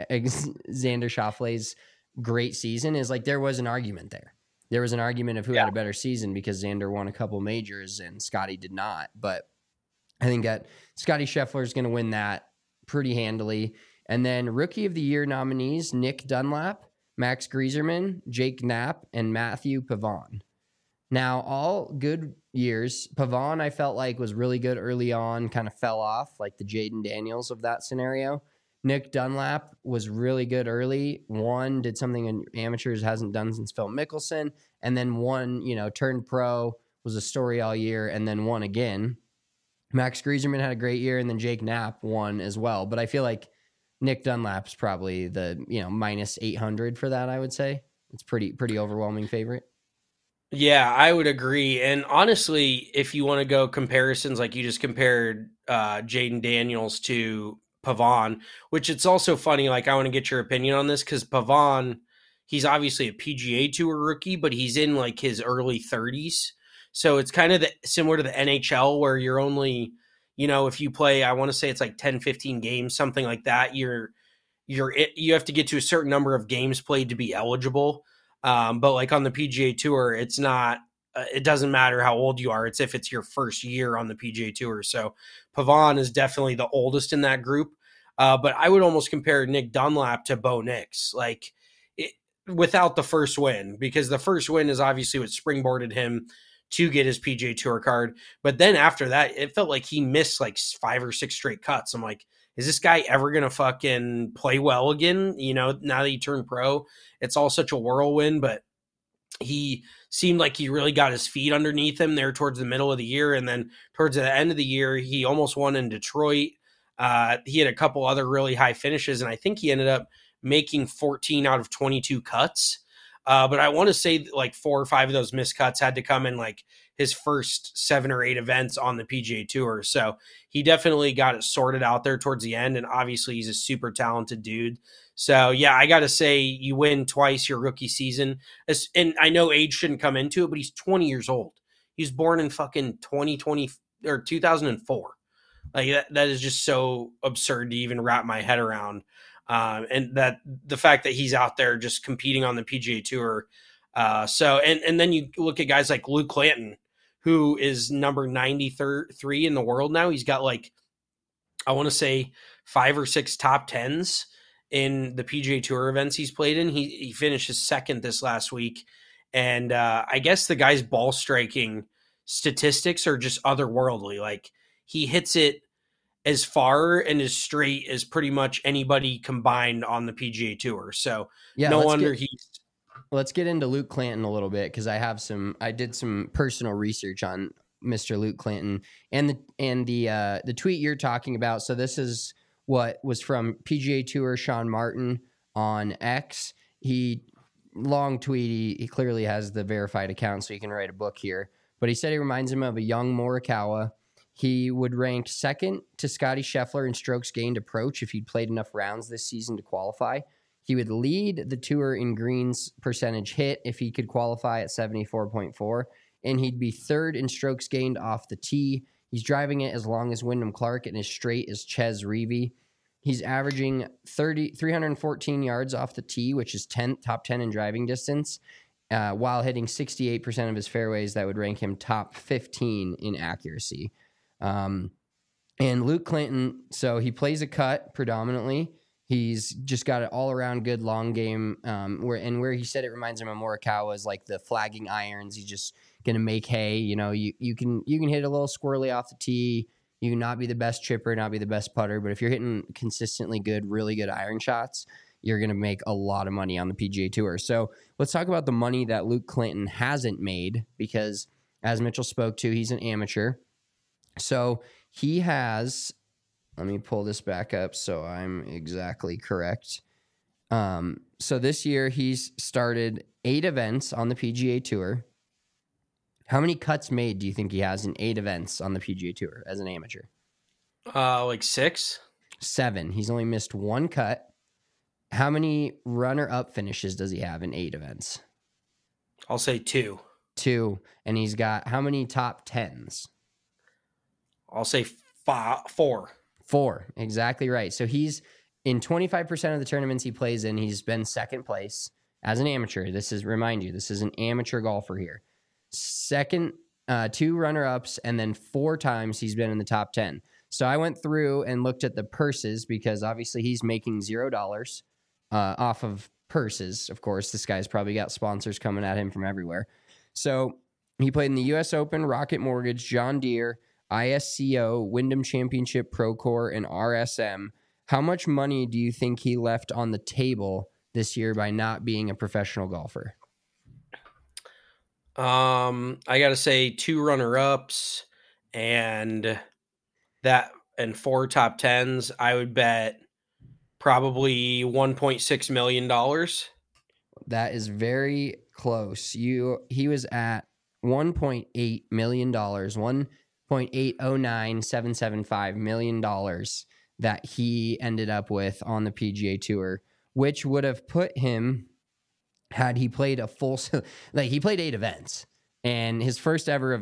Xander Schauffele's great season is like there was an argument there. There was an argument of who had a better season because Xander won a couple majors and Scotty did not. But I think that Scotty Scheffler is going to win that pretty handily. And then Rookie of the Year nominees, Nick Dunlap, Max Grieserman, Jake Knapp, and Matthew Pavon. Now, all good years. Pavon, I felt like, was really good early on, kind of fell off, like the Jaden Daniels of that scenario. Nick Dunlap was really good early. Did something in amateurs hasn't done since Phil Mickelson, and then turned pro, was a story all year, and then won again. Max Grieserman had a great year, and then Jake Knapp won as well. But I feel like Nick Dunlap's probably the minus 800 for that. I would say it's pretty overwhelming favorite. Yeah, I would agree. And honestly, if you want to go comparisons, like you just compared Jaden Daniels to Pavon, which it's also funny, like I want to get your opinion on this because Pavon, he's obviously a PGA Tour rookie, but he's in like his early 30s. So it's kind of similar to the NHL where you're only, if you play, I want to say it's like 10, 15 games, something like that. You have to get to a certain number of games played to be eligible. But like on the PGA Tour, it's not, it doesn't matter how old you are. It's if it's your first year on the PGA Tour. So Pavon is definitely the oldest in that group. But I would almost compare Nick Dunlap to Bo Nix, without the first win, because the first win is obviously what springboarded him to get his PGA Tour card. But then after that, it felt like he missed like 5 or 6 straight cuts. I'm like, is this guy ever going to fucking play well again? Now that he turned pro, it's all such a whirlwind, but he seemed like he really got his feet underneath him there towards the middle of the year. And then towards the end of the year, he almost won in Detroit. He had a couple other really high finishes, and I think he ended up making 14 out of 22 cuts. But I want to say like 4 or 5 of those missed cuts had to come in like his first 7 or 8 events on the PGA Tour. So he definitely got it sorted out there towards the end. And obviously he's a super talented dude. So yeah, I got to say you win twice your rookie season. And I know age shouldn't come into it, but he's 20 years old. He was born in fucking 2020 or 2004. Like that is just so absurd to even wrap my head around. And that the fact that he's out there just competing on the PGA Tour. And then you look at guys like Luke Clanton, who is number 93 in the world now. He's got like, I want to say 5 or 6 top 10s in the PGA Tour events he's played in. He finished his second this last week. And I guess the guy's ball striking statistics are just otherworldly. Like he hits it as far and as straight as pretty much anybody combined on the PGA Tour. So yeah, no wonder let's get into Luke Clanton a little bit because I did some personal research on Mr. Luke Clanton and the tweet you're talking about. So this is what was from PGA Tour Sean Martin on X. Long tweet. He clearly has the verified account, so he can write a book here. But he said he reminds him of a young Morikawa. He would rank second to Scotty Scheffler in strokes gained approach if he'd played enough rounds this season to qualify. He would lead the tour in greens percentage hit if he could qualify at 74.4, and he'd be third in strokes gained off the tee. He's driving it as long as Wyndham Clark and as straight as Ches Reavie. He's averaging 314 yards off the tee, which is top 10 in driving distance, while hitting 68% of his fairways. That would rank him top 15 in accuracy. And Luke Clanton, so he plays a cut predominantly. He's just got an all-around good long game. Where he said it reminds him of Morikawa is like the flagging irons. He's just gonna make hay. You can hit a little squirrely off the tee. You can not be the best chipper, not be the best putter, but if you're hitting consistently good, really good iron shots, you're gonna make a lot of money on the PGA Tour. So let's talk about the money that Luke Clanton hasn't made, because as Mitchell spoke to, he's an amateur. So he has, Let me pull this back up so I'm exactly correct. So this year he's started 8 events on the PGA Tour. How many cuts made do you think he has in 8 events on the PGA Tour as an amateur? Like 6? 7. He's only missed 1 cut. How many runner-up finishes does he have in 8 events? I'll say 2. 2. And he's got how many top 10s? I'll say 4. 4. Exactly right. So he's in 25% of the tournaments he plays in, he's been second place as an amateur. Remind you, this is an amateur golfer here. Second, 2 runner-ups, and then 4 times he's been in the top 10. So I went through and looked at the purses because obviously he's making $0 off of purses. Of course, this guy's probably got sponsors coming at him from everywhere. So he played in the U.S. Open, Rocket Mortgage, John Deere, ISCO, Wyndham Championship, Procore, and RSM. How much money do you think he left on the table this year by not being a professional golfer? I got to say 2 runner-ups and 4 top 10s. I would bet probably $1.6 million. That is very close. He was at $1.8 million, $1.809775 million that he ended up with on the PGA Tour, which would have put him, had he played he played 8 events, and his first ever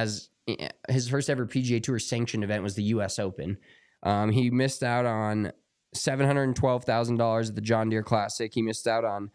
PGA Tour sanctioned event was the U.S. Open. He missed out on $712,000 at the John Deere Classic. He missed out on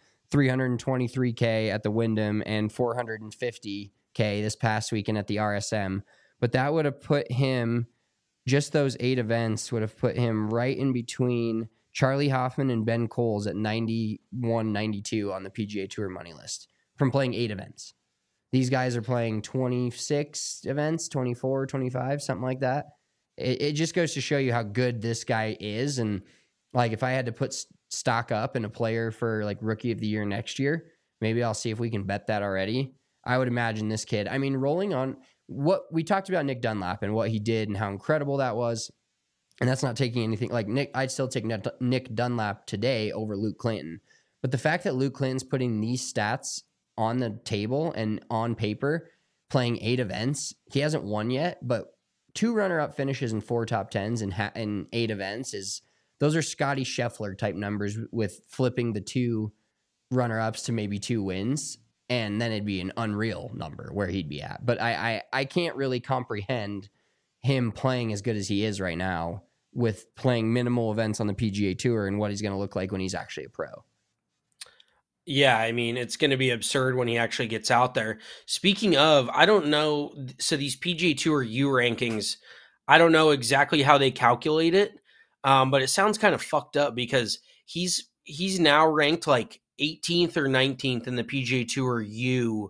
$323K at the Wyndham and $450K this past weekend at the RSM. But that would have put him, just those 8 events would have put him right in between Charlie Hoffman and Ben Coles at 91, 92 on the PGA Tour money list from playing 8 events. These guys are playing 26 events, 24, 25, something like that. It just goes to show you how good this guy is. And like, if I had to put stock up in a player for like Rookie of the Year next year, maybe I'll see if we can bet that already. I would imagine this kid, I mean, rolling on what we talked about Nick Dunlap and what he did and how incredible that was. And that's not taking anything like Nick. I'd still take Nick Dunlap today over Luke Clinton. But the fact that Luke Clinton's putting these stats on the table and on paper, playing 8 events, he hasn't won yet, but 2 runner-up finishes and 4 top 10s in 8 events those are Scotty Scheffler type numbers with flipping the 2 runner-ups to maybe 2 wins. And then it'd be an unreal number where he'd be at. But I can't really comprehend him playing as good as he is right now with playing minimal events on the PGA Tour and what he's going to look like when he's actually a pro. Yeah, I mean, it's going to be absurd when he actually gets out there. Speaking of, I don't know. So these PGA Tour U rankings, I don't know exactly how they calculate it, but it sounds kind of fucked up because he's now ranked like 18th or 19th in the PGA Tour U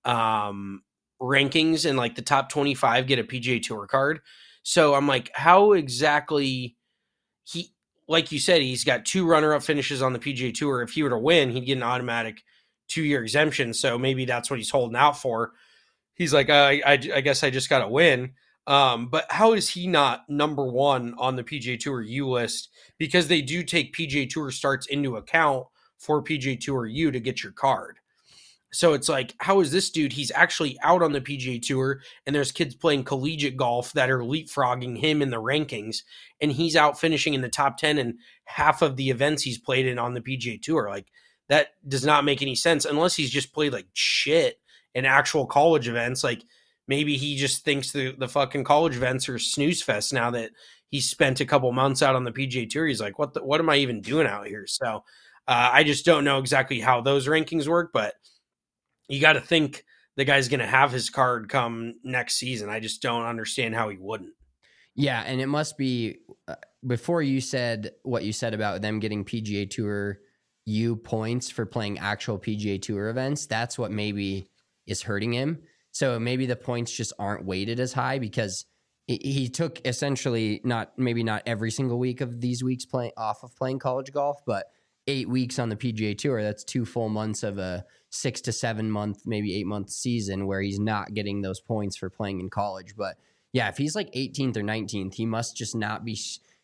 rankings, and like the top 25 get a PGA Tour card. So I'm like, how exactly like you said, he's got 2 runner-up finishes on the PGA Tour. If he were to win, he'd get an automatic 2-year exemption. So maybe that's what he's holding out for. He's like, I guess I just got to win. But how is he not number 1 on the PGA Tour U list? Because they do take PGA Tour starts into account for PGA Tour U to get your card. So it's like, how is this dude? He's actually out on the PGA Tour, and there's kids playing collegiate golf that are leapfrogging him in the rankings, and he's out finishing in the top 10 in half of the events he's played in on the PGA Tour. Like, that does not make any sense unless he's just played like shit in actual college events. Like, maybe he just thinks the fucking college events are snooze fest now that he's spent a couple months out on the PGA Tour. He's like, what am I even doing out here? So I just don't know exactly how those rankings work, but you got to think the guy's going to have his card come next season. I just don't understand how he wouldn't. Yeah, and it must be before you said what you said about them getting PGA Tour U points for playing actual PGA Tour events. That's what maybe is hurting him. So maybe the points just aren't weighted as high because he took essentially not every single week of these weeks playing college golf, but 8 weeks on the PGA Tour. That's 2 full months of a 6 to 7 month, maybe 8 month season where he's not getting those points for playing in college. But yeah, if he's like 18th or 19th, he must just not be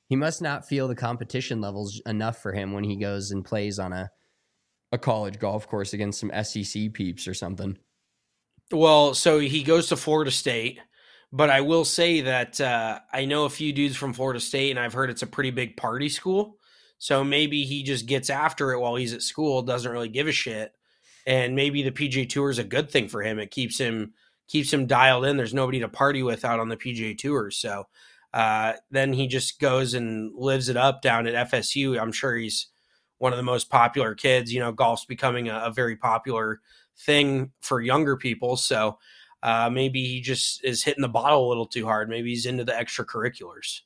he must not feel the competition levels enough for him when he goes and plays on a college golf course against some SEC peeps or something. Well, so he goes to Florida State, but I will say that I know a few dudes from Florida State, and I've heard it's a pretty big party school. So maybe he just gets after it while he's at school, doesn't really give a shit. And maybe the PGA Tour is a good thing for him. It keeps him dialed in. There's nobody to party with out on the PGA Tour. So then he just goes and lives it up down at FSU. I'm sure he's one of the most popular kids. You know, golf's becoming a very popular thing for younger people. So maybe he just is hitting the bottle a little too hard. Maybe he's into the extracurriculars.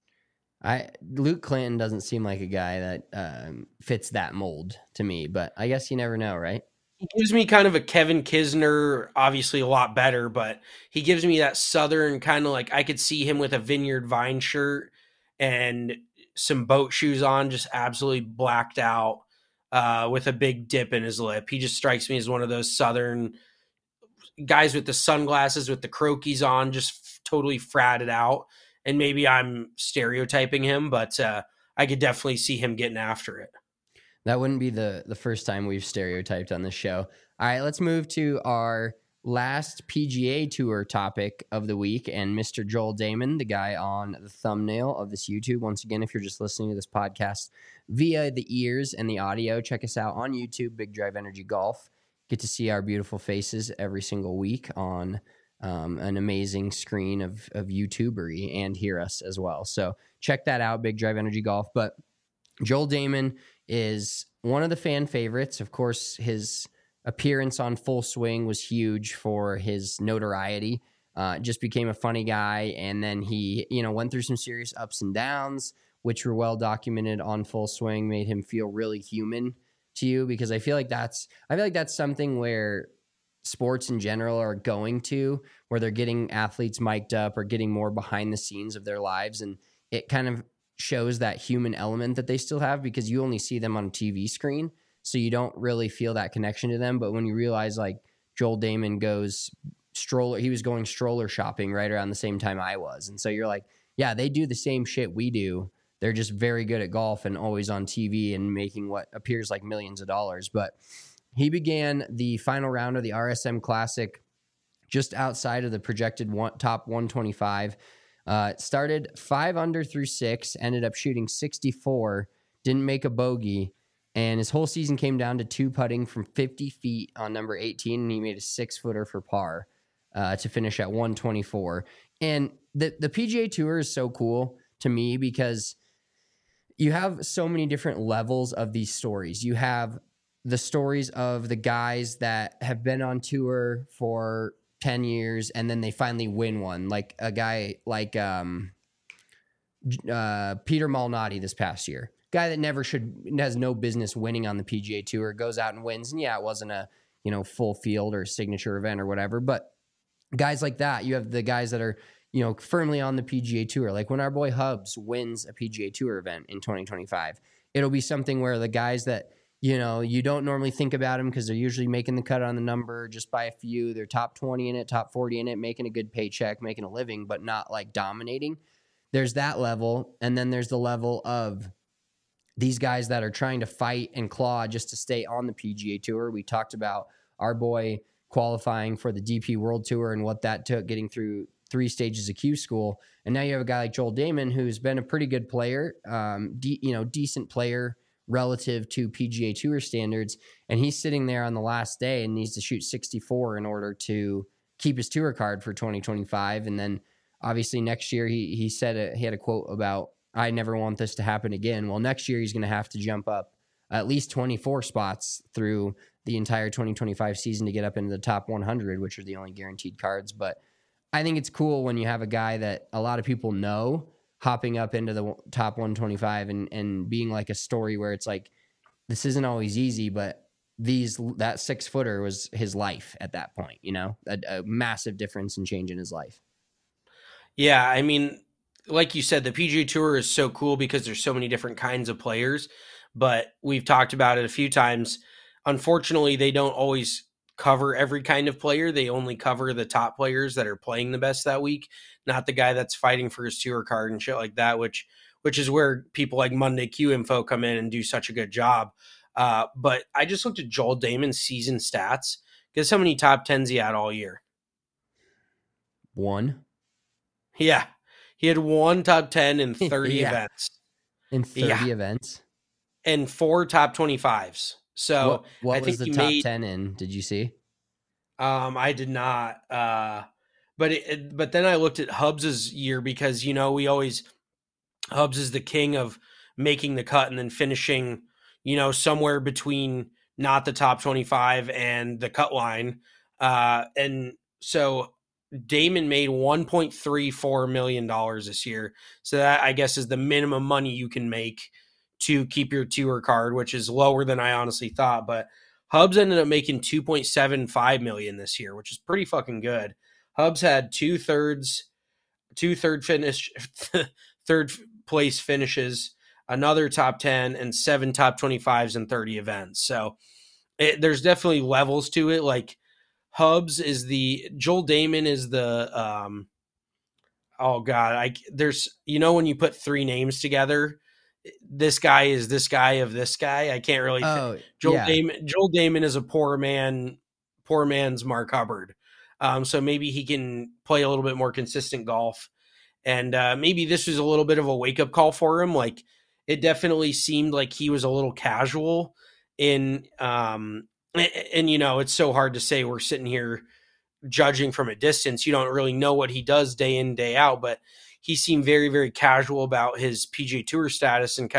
Luke Clinton doesn't seem like a guy that fits that mold to me, but I guess you never know, right? He gives me kind of a Kevin Kisner, obviously a lot better, but he gives me that Southern kind of like, I could see him with a Vineyard Vine shirt and some boat shoes on, just absolutely blacked out with a big dip in his lip. He just strikes me as one of those Southern guys with the sunglasses, with the croquis on, just totally fratted out. And maybe I'm stereotyping him, but I could definitely see him getting after it. That wouldn't be the first time we've stereotyped on this show. All right, let's move to our last PGA Tour topic of the week, and Mr. Joel Damon, the guy on the thumbnail of this YouTube. Once again, if you're just listening to this podcast via the ears and the audio, check us out on YouTube, Big Drive Energy Golf. Get to see our beautiful faces every single week on an amazing screen of YouTubery, and hear us as well. So check that out, Big Drive Energy Golf. But Joel Damon is one of the fan favorites. Of course, his appearance on Full Swing was huge for his notoriety. Just became a funny guy, and then he, went through some serious ups and downs, which were well documented on Full Swing. Made him feel really human to you, because I feel like that's something where sports in general are going to, where they're getting athletes mic'd up or getting more behind the scenes of their lives, and it kind of shows that human element that they still have, because you only see them on a TV screen, so you don't really feel that connection to them. But when you realize, like, Joel Damon he was going stroller shopping right around the same time I was, and so you're like, yeah, they do the same shit we do. They're just very good at golf and always on TV and making what appears like millions of dollars. But he began the final round of the RSM Classic just outside of the projected top 125. Started 5 under through 6, ended up shooting 64, didn't make a bogey, and his whole season came down to 2 putting from 50 feet on number 18, and he made a 6-footer for par to finish at 124. And the PGA Tour is so cool to me, because you have so many different levels of these stories. You have the stories of the guys that have been on tour for 10 years and then they finally win one, like a guy like Peter Malnati this past year. Guy that has no business winning on the PGA Tour, goes out and wins. And yeah, it wasn't a full field or signature event or whatever, but guys like that. You have the guys that are firmly on the PGA Tour. Like when our boy Hubs wins a PGA Tour event in 2025, it'll be something where the guys that you don't normally think about them, because they're usually making the cut on the number just by a few. They're top 20 in it, top 40 in it, making a good paycheck, making a living, but not like dominating. There's that level. And then there's the level of these guys that are trying to fight and claw just to stay on the PGA Tour. We talked about our boy qualifying for the DP World Tour and what that took, getting through 3 stages of Q School. And now you have a guy like Joel Damon, who's been a pretty good player, decent player relative to PGA Tour standards, and he's sitting there on the last day and needs to shoot 64 in order to keep his tour card for 2025. And then obviously next year he said he had a quote about, I never want this to happen again. Well, next year he's going to have to jump up at least 24 spots through the entire 2025 season to get up into the top 100, which are the only guaranteed cards. But I think it's cool when you have a guy that a lot of people know hopping up into the top 125 and being like a story where it's like, this isn't always easy, but that 6-footer was his life at that point, a massive difference in change in his life. Yeah. I mean, like you said, the PGA Tour is so cool because there's so many different kinds of players, but we've talked about it a few times. Unfortunately, they don't always cover every kind of player. They only cover the top players that are playing the best that week, not the guy that's fighting for his tour card and shit like that, which which is where people like Monday Q Info come in and do such a good job. But I just looked at Joel Damon's season stats. Guess how many top 10s he had all year? 1. Yeah. He had 1 top 10 in 30 events. In 30 events? And 4 top 25s. So what I was think the he top made, 10 in? Did you see? I did not. But then I looked at Hubbs's year because, Hubbs is the king of making the cut and then finishing, somewhere between not the top 25 and the cut line. And so Damon made $1.34 million this year. So that, I guess, is the minimum money you can make to keep your tour card, which is lower than I honestly thought. But Hubbs ended up making $2.75 million this year, which is pretty fucking good. Hubbs had third place finishes, another top 10, and 7 top 25s in 30 events. So there's definitely levels to it. Like Hubbs is Joel Damon is the, there's, when you put 3 names together, this guy is this guy of this guy. I can't really. Joel Damon is a poor man's Mark Hubbard. So maybe he can play a little bit more consistent golf. And maybe this was a little bit of a wake up call for him. Like it definitely seemed like he was a little casual in, and it's so hard to say. We're sitting here judging from a distance. You don't really know what he does day in, day out, but he seemed very, very casual about his PGA Tour status and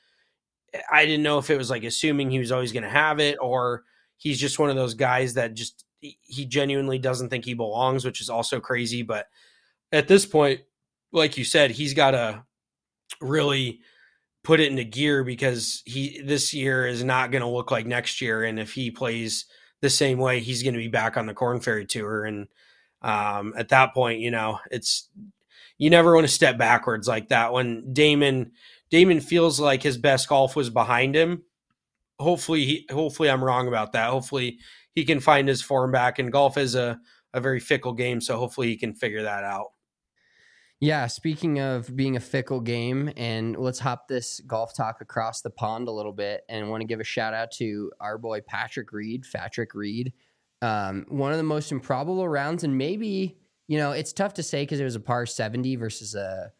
I didn't know if it was like assuming he was always going to have it or he's just one of those guys that just, he genuinely doesn't think he belongs, which is also crazy. But at this point, like you said, he's got to really put it into gear because this year is not going to look like next year. And if he plays the same way, he's going to be back on the Korn Ferry Tour. And at that point, you never want to step backwards like that. When Damon feels like his best golf was behind him, hopefully I'm wrong about that. Hopefully he can find his form back, and golf is a very fickle game. So hopefully he can figure that out. Yeah. Speaking of being a fickle game, and let's hop this golf talk across the pond a little bit, and want to give a shout out to our boy, Patrick Reed. One of the most improbable rounds, and maybe, it's tough to say because it was a par 70 versus a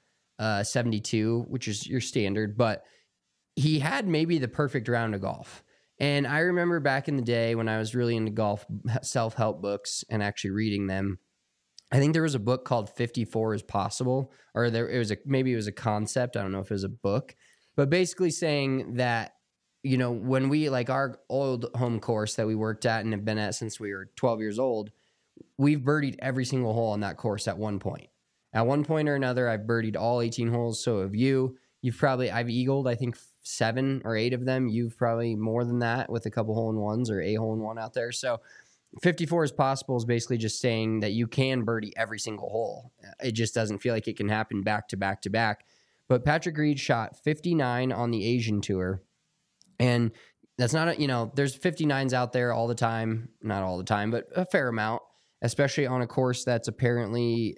72, which is your standard, but he had maybe the perfect round of golf. And I remember back in the day when I was really into golf self-help books and actually reading them, I think there was a book called 54 is Possible, or maybe it was a concept. I don't know if it was a book, but basically saying that, when we, like our old home course that we worked at and have been at since we were 12 years old, we've birdied every single hole on that course at one point. At one point or another, I've birdied all 18 holes. So have you. I've eagled, I think, 7 or 8 of them. You've probably more than that with a couple hole-in-ones or a hole-in-one out there. So 54 is possible is basically just saying that you can birdie every single hole. It just doesn't feel like it can happen back to back to back. But Patrick Reed shot 59 on the Asian Tour. And that's not, there's 59s out there all the time. Not all the time, but a fair amount, especially on a course that's apparently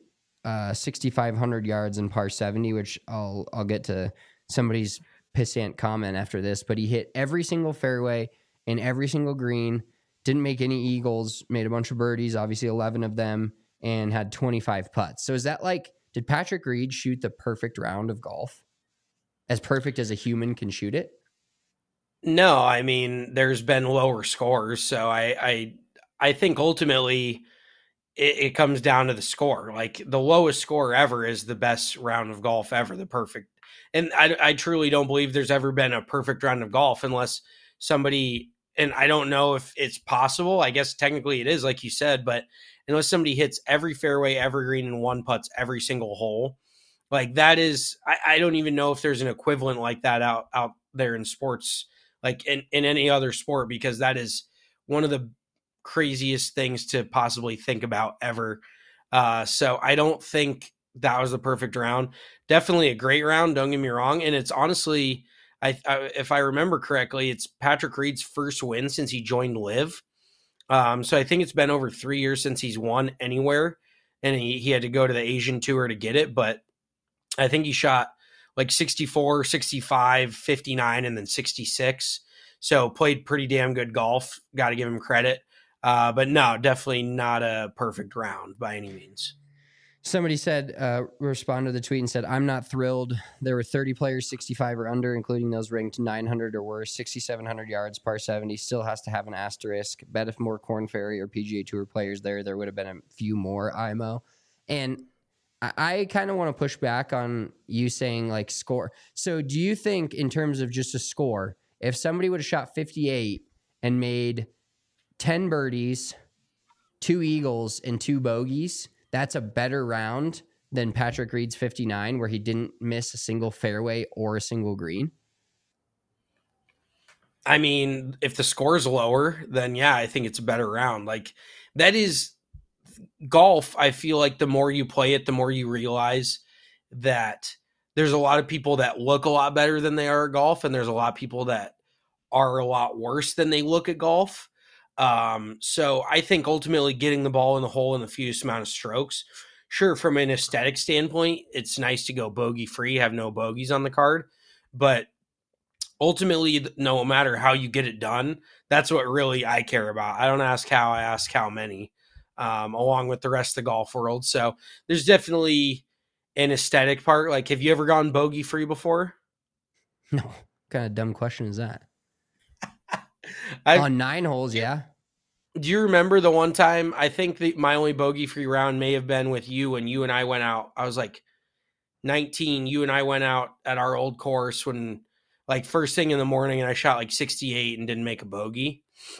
6,500 yards in par 70, which I'll get to somebody's pissant comment after this, but he hit every single fairway and every single green, didn't make any eagles, made a bunch of birdies, obviously 11 of them, and had 25 putts. So is that did Patrick Reed shoot the perfect round of golf? As perfect as a human can shoot it? No, I mean, there's been lower scores. So I think ultimately it comes down to the score. Like the lowest score ever is the best round of golf ever, the perfect. And I truly don't believe there's ever been a perfect round of golf unless somebody, and I don't know if it's possible. I guess technically it is, like you said, but unless somebody hits every fairway, every green, and one putts every single hole, like that is, I don't even know if there's an equivalent like that out there in sports, like in any other sport, because that is one of the craziest things to possibly think about ever. So I don't think that was the perfect round. Definitely a great round, don't get me wrong. And it's honestly, if I remember correctly, it's Patrick Reed's first win since he joined LIV. So I think it's been over 3 years since he's won anywhere, and he had to go to the Asian Tour to get it. But I think he shot like 64, 65, 59, and then 66. So played pretty damn good golf. Got to give him credit. But no, definitely not a perfect round by any means. Somebody said, responded to the tweet and said, I'm not thrilled. There were 30 players 65 or under, including those ranked 900 or worse, 6,700 yards, par 70, still has to have an asterisk. Bet if more Korn Ferry or PGA Tour players there would have been a few more IMO. And I kind of want to push back on you saying like score. So do you think in terms of just a score, if somebody would have shot 58 and made 10 birdies, 2 eagles, and 2 bogeys, that's a better round than Patrick Reed's 59, where he didn't miss a single fairway or a single green? I mean, if the score is lower, then yeah, I think it's a better round. Like, that is golf. I feel like the more you play it, the more you realize that there's a lot of people that look a lot better than they are at golf, and there's a lot of people that are a lot worse than they look at golf. So I think ultimately getting the ball in the hole in the fewest amount of strokes, sure, from an aesthetic standpoint, it's nice to go bogey free, have no bogeys on the card, but ultimately, no matter how you get it done, that's what really I care about. I don't ask how, I ask how many, along with the rest of the golf world. So there's definitely an aesthetic part. Like, have you ever gone bogey free before? No. What kind of dumb question is that? On 9 holes, yeah. Do you remember the one time, I think my only bogey-free round may have been with you when you and I went out. I was like 19. You and I went out at our old course when, like, first thing in the morning, and I shot like 68 and didn't make a bogey.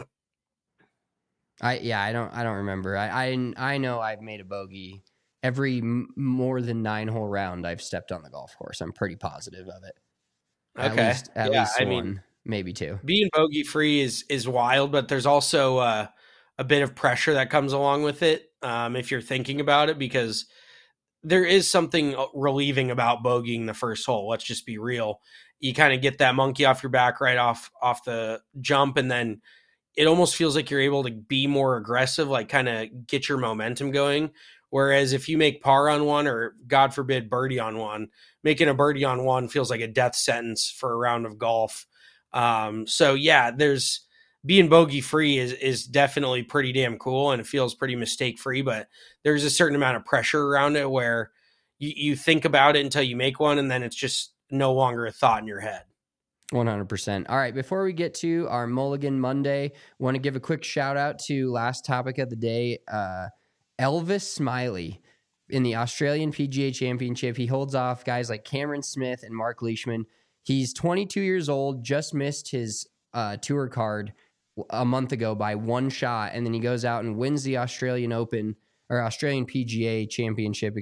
I don't remember. I know I've made a bogey every more than 9-hole round I've stepped on the golf course. I'm pretty positive of it. At least one. Mean, maybe 2. Being bogey free is wild, but there's also a bit of pressure that comes along with it if you're thinking about it, because there is something relieving about bogeying the first hole. Let's just be real. You kind of get that monkey off your back right off the jump, and then it almost feels like you're able to be more aggressive, like kind of get your momentum going. Whereas if you make par on one, or God forbid birdie on one, making a birdie on one feels like a death sentence for a round of golf. So yeah, there's being bogey free is definitely pretty damn cool, and it feels pretty mistake free, but there's a certain amount of pressure around it where you think about it until you make one, and then it's just no longer a thought in your head. 100%. All right. Before we get to our Mulligan Monday, want to give a quick shout out to last topic of the day. Elvis Smiley in the Australian PGA Championship. He holds off guys like Cameron Smith and Mark Leishman. He's 22 years old, just missed his tour card a month ago by 1 shot, and then he goes out and wins the Australian Open, or Australian PGA Championship,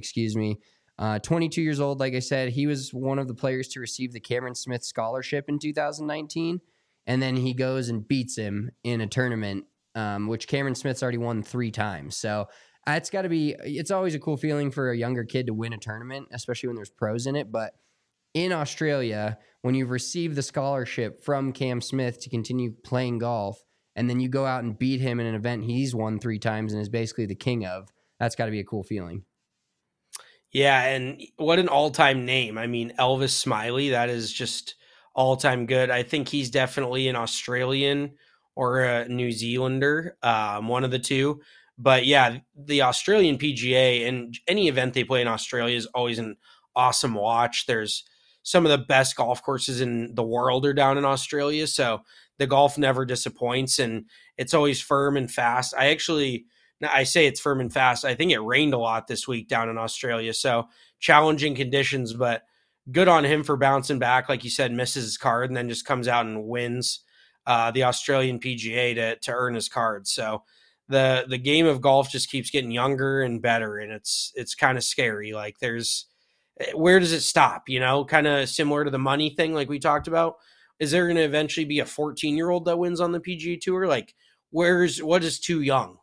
22 years old, like I said. He was one of the players to receive the Cameron Smith Scholarship in 2019, and then he goes and beats him in a tournament, which Cameron Smith's already won 3 times. So it's always a cool feeling for a younger kid to win a tournament, especially when there's pros in it. But in Australia, when you've received the scholarship from Cam Smith to continue playing golf, and then you go out and beat him in an event he's won 3 times and is basically the king of, that's got to be a cool feeling. Yeah, and what an all-time name. I mean, Elvis Smiley, that is just all-time good. I think he's definitely an Australian or a New Zealander, one of the two. But yeah, the Australian PGA and any event they play in Australia is always an awesome watch. There's some of the best golf courses in the world are down in Australia, so the golf never disappoints, and it's always firm and fast. I say it's firm and fast. I think it rained a lot this week down in Australia, so challenging conditions, but good on him for bouncing back. Like you said, misses his card and then just comes out and wins the Australian PGA to earn his card. So the game of golf just keeps getting younger and better, and it's kind of scary. Like, where does it stop? Kind of similar to the money thing like we talked about. Is there going to eventually be a 14-year-old that wins on the PGA Tour? Like, what is too young?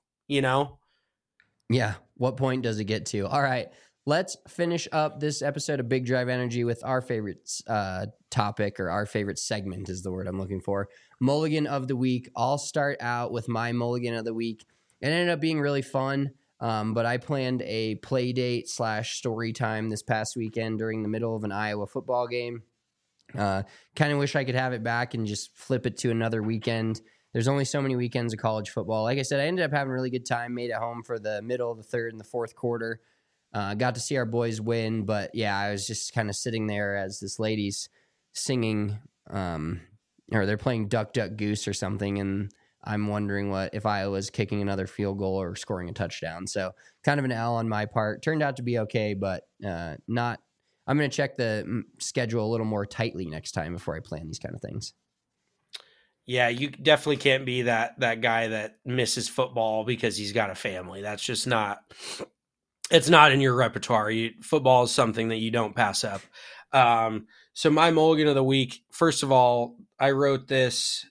Yeah. What point does it get to? All right. Let's finish up this episode of Big Drive Energy with our favorite topic, or our favorite segment is the word I'm looking for. Mulligan of the week. I'll start out with my Mulligan of the week. It ended up being really fun. But I planned a play date / story time this past weekend during the middle of an Iowa football game. Kind of wish I could have it back and just flip it to another weekend. There's only so many weekends of college football. Like I said, I ended up having a really good time, made it home for the middle, the third, and the fourth quarter. Got to see our boys win, but yeah, I was just kind of sitting there as this lady's singing, or they're playing Duck, Duck, Goose or something, and I'm wondering if Iowa's kicking another field goal or scoring a touchdown. So kind of an L on my part. Turned out to be okay, but not. I'm going to check the schedule a little more tightly next time before I plan these kind of things. Yeah, you definitely can't be that guy that misses football because he's got a family. That's just not. It's not in your repertoire. Football is something that you don't pass up. So my mulligan of the week. First of all, I wrote this.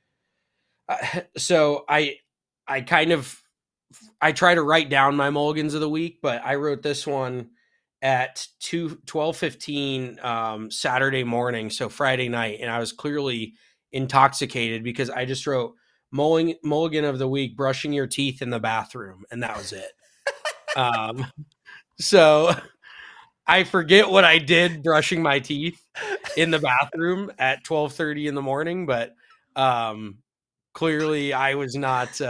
So I try to write down my mulligans of the week, but I wrote this one at 12:15 Saturday morning, so Friday night, and I was clearly intoxicated because I just wrote mulligan of the week, brushing your teeth in the bathroom, and that was it. So I forget what I did brushing my teeth in the bathroom at 12:30 in the morning, but clearly I was not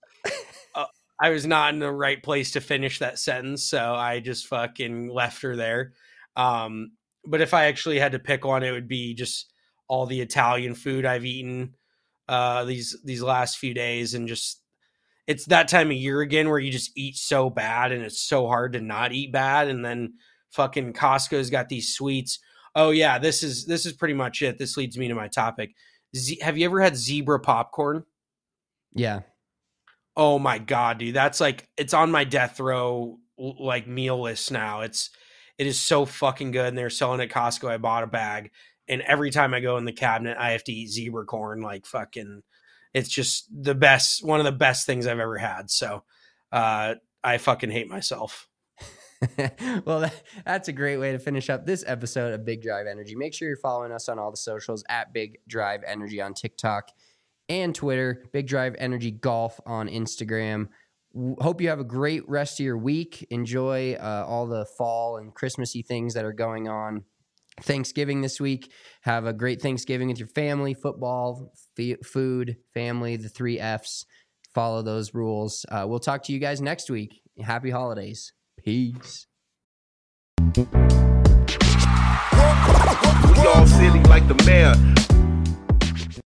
in the right place to finish that sentence, so I just fucking left her there. But if I actually had to pick one, it would be just all the Italian food I've eaten these last few days, and just it's that time of year again where you just eat so bad and it's so hard to not eat bad. And then fucking Costco's got these sweets. Oh yeah, this is pretty much it. This leads me to my topic. Have you ever had zebra popcorn? Yeah. Oh my God, dude. That's like, it's on my death row, like meal list now. It is so fucking good. And they're selling at Costco. I bought a bag, and every time I go in the cabinet, I have to eat zebra corn. Like fucking, it's just the best, one of the best things I've ever had. So, I fucking hate myself. Well, that's a great way to finish up this episode of Big Drive Energy. Make sure you're following us on all the socials at Big Drive Energy on TikTok and Twitter, Big Drive Energy Golf on Instagram. Hope you have a great rest of your week. Enjoy all the fall and Christmassy things that are going on. Thanksgiving this week. Have a great Thanksgiving with your family, football, food, family, the 3 Fs. Follow those rules. We'll talk to you guys next week. Happy holidays. Peace. We all silly like the mayor.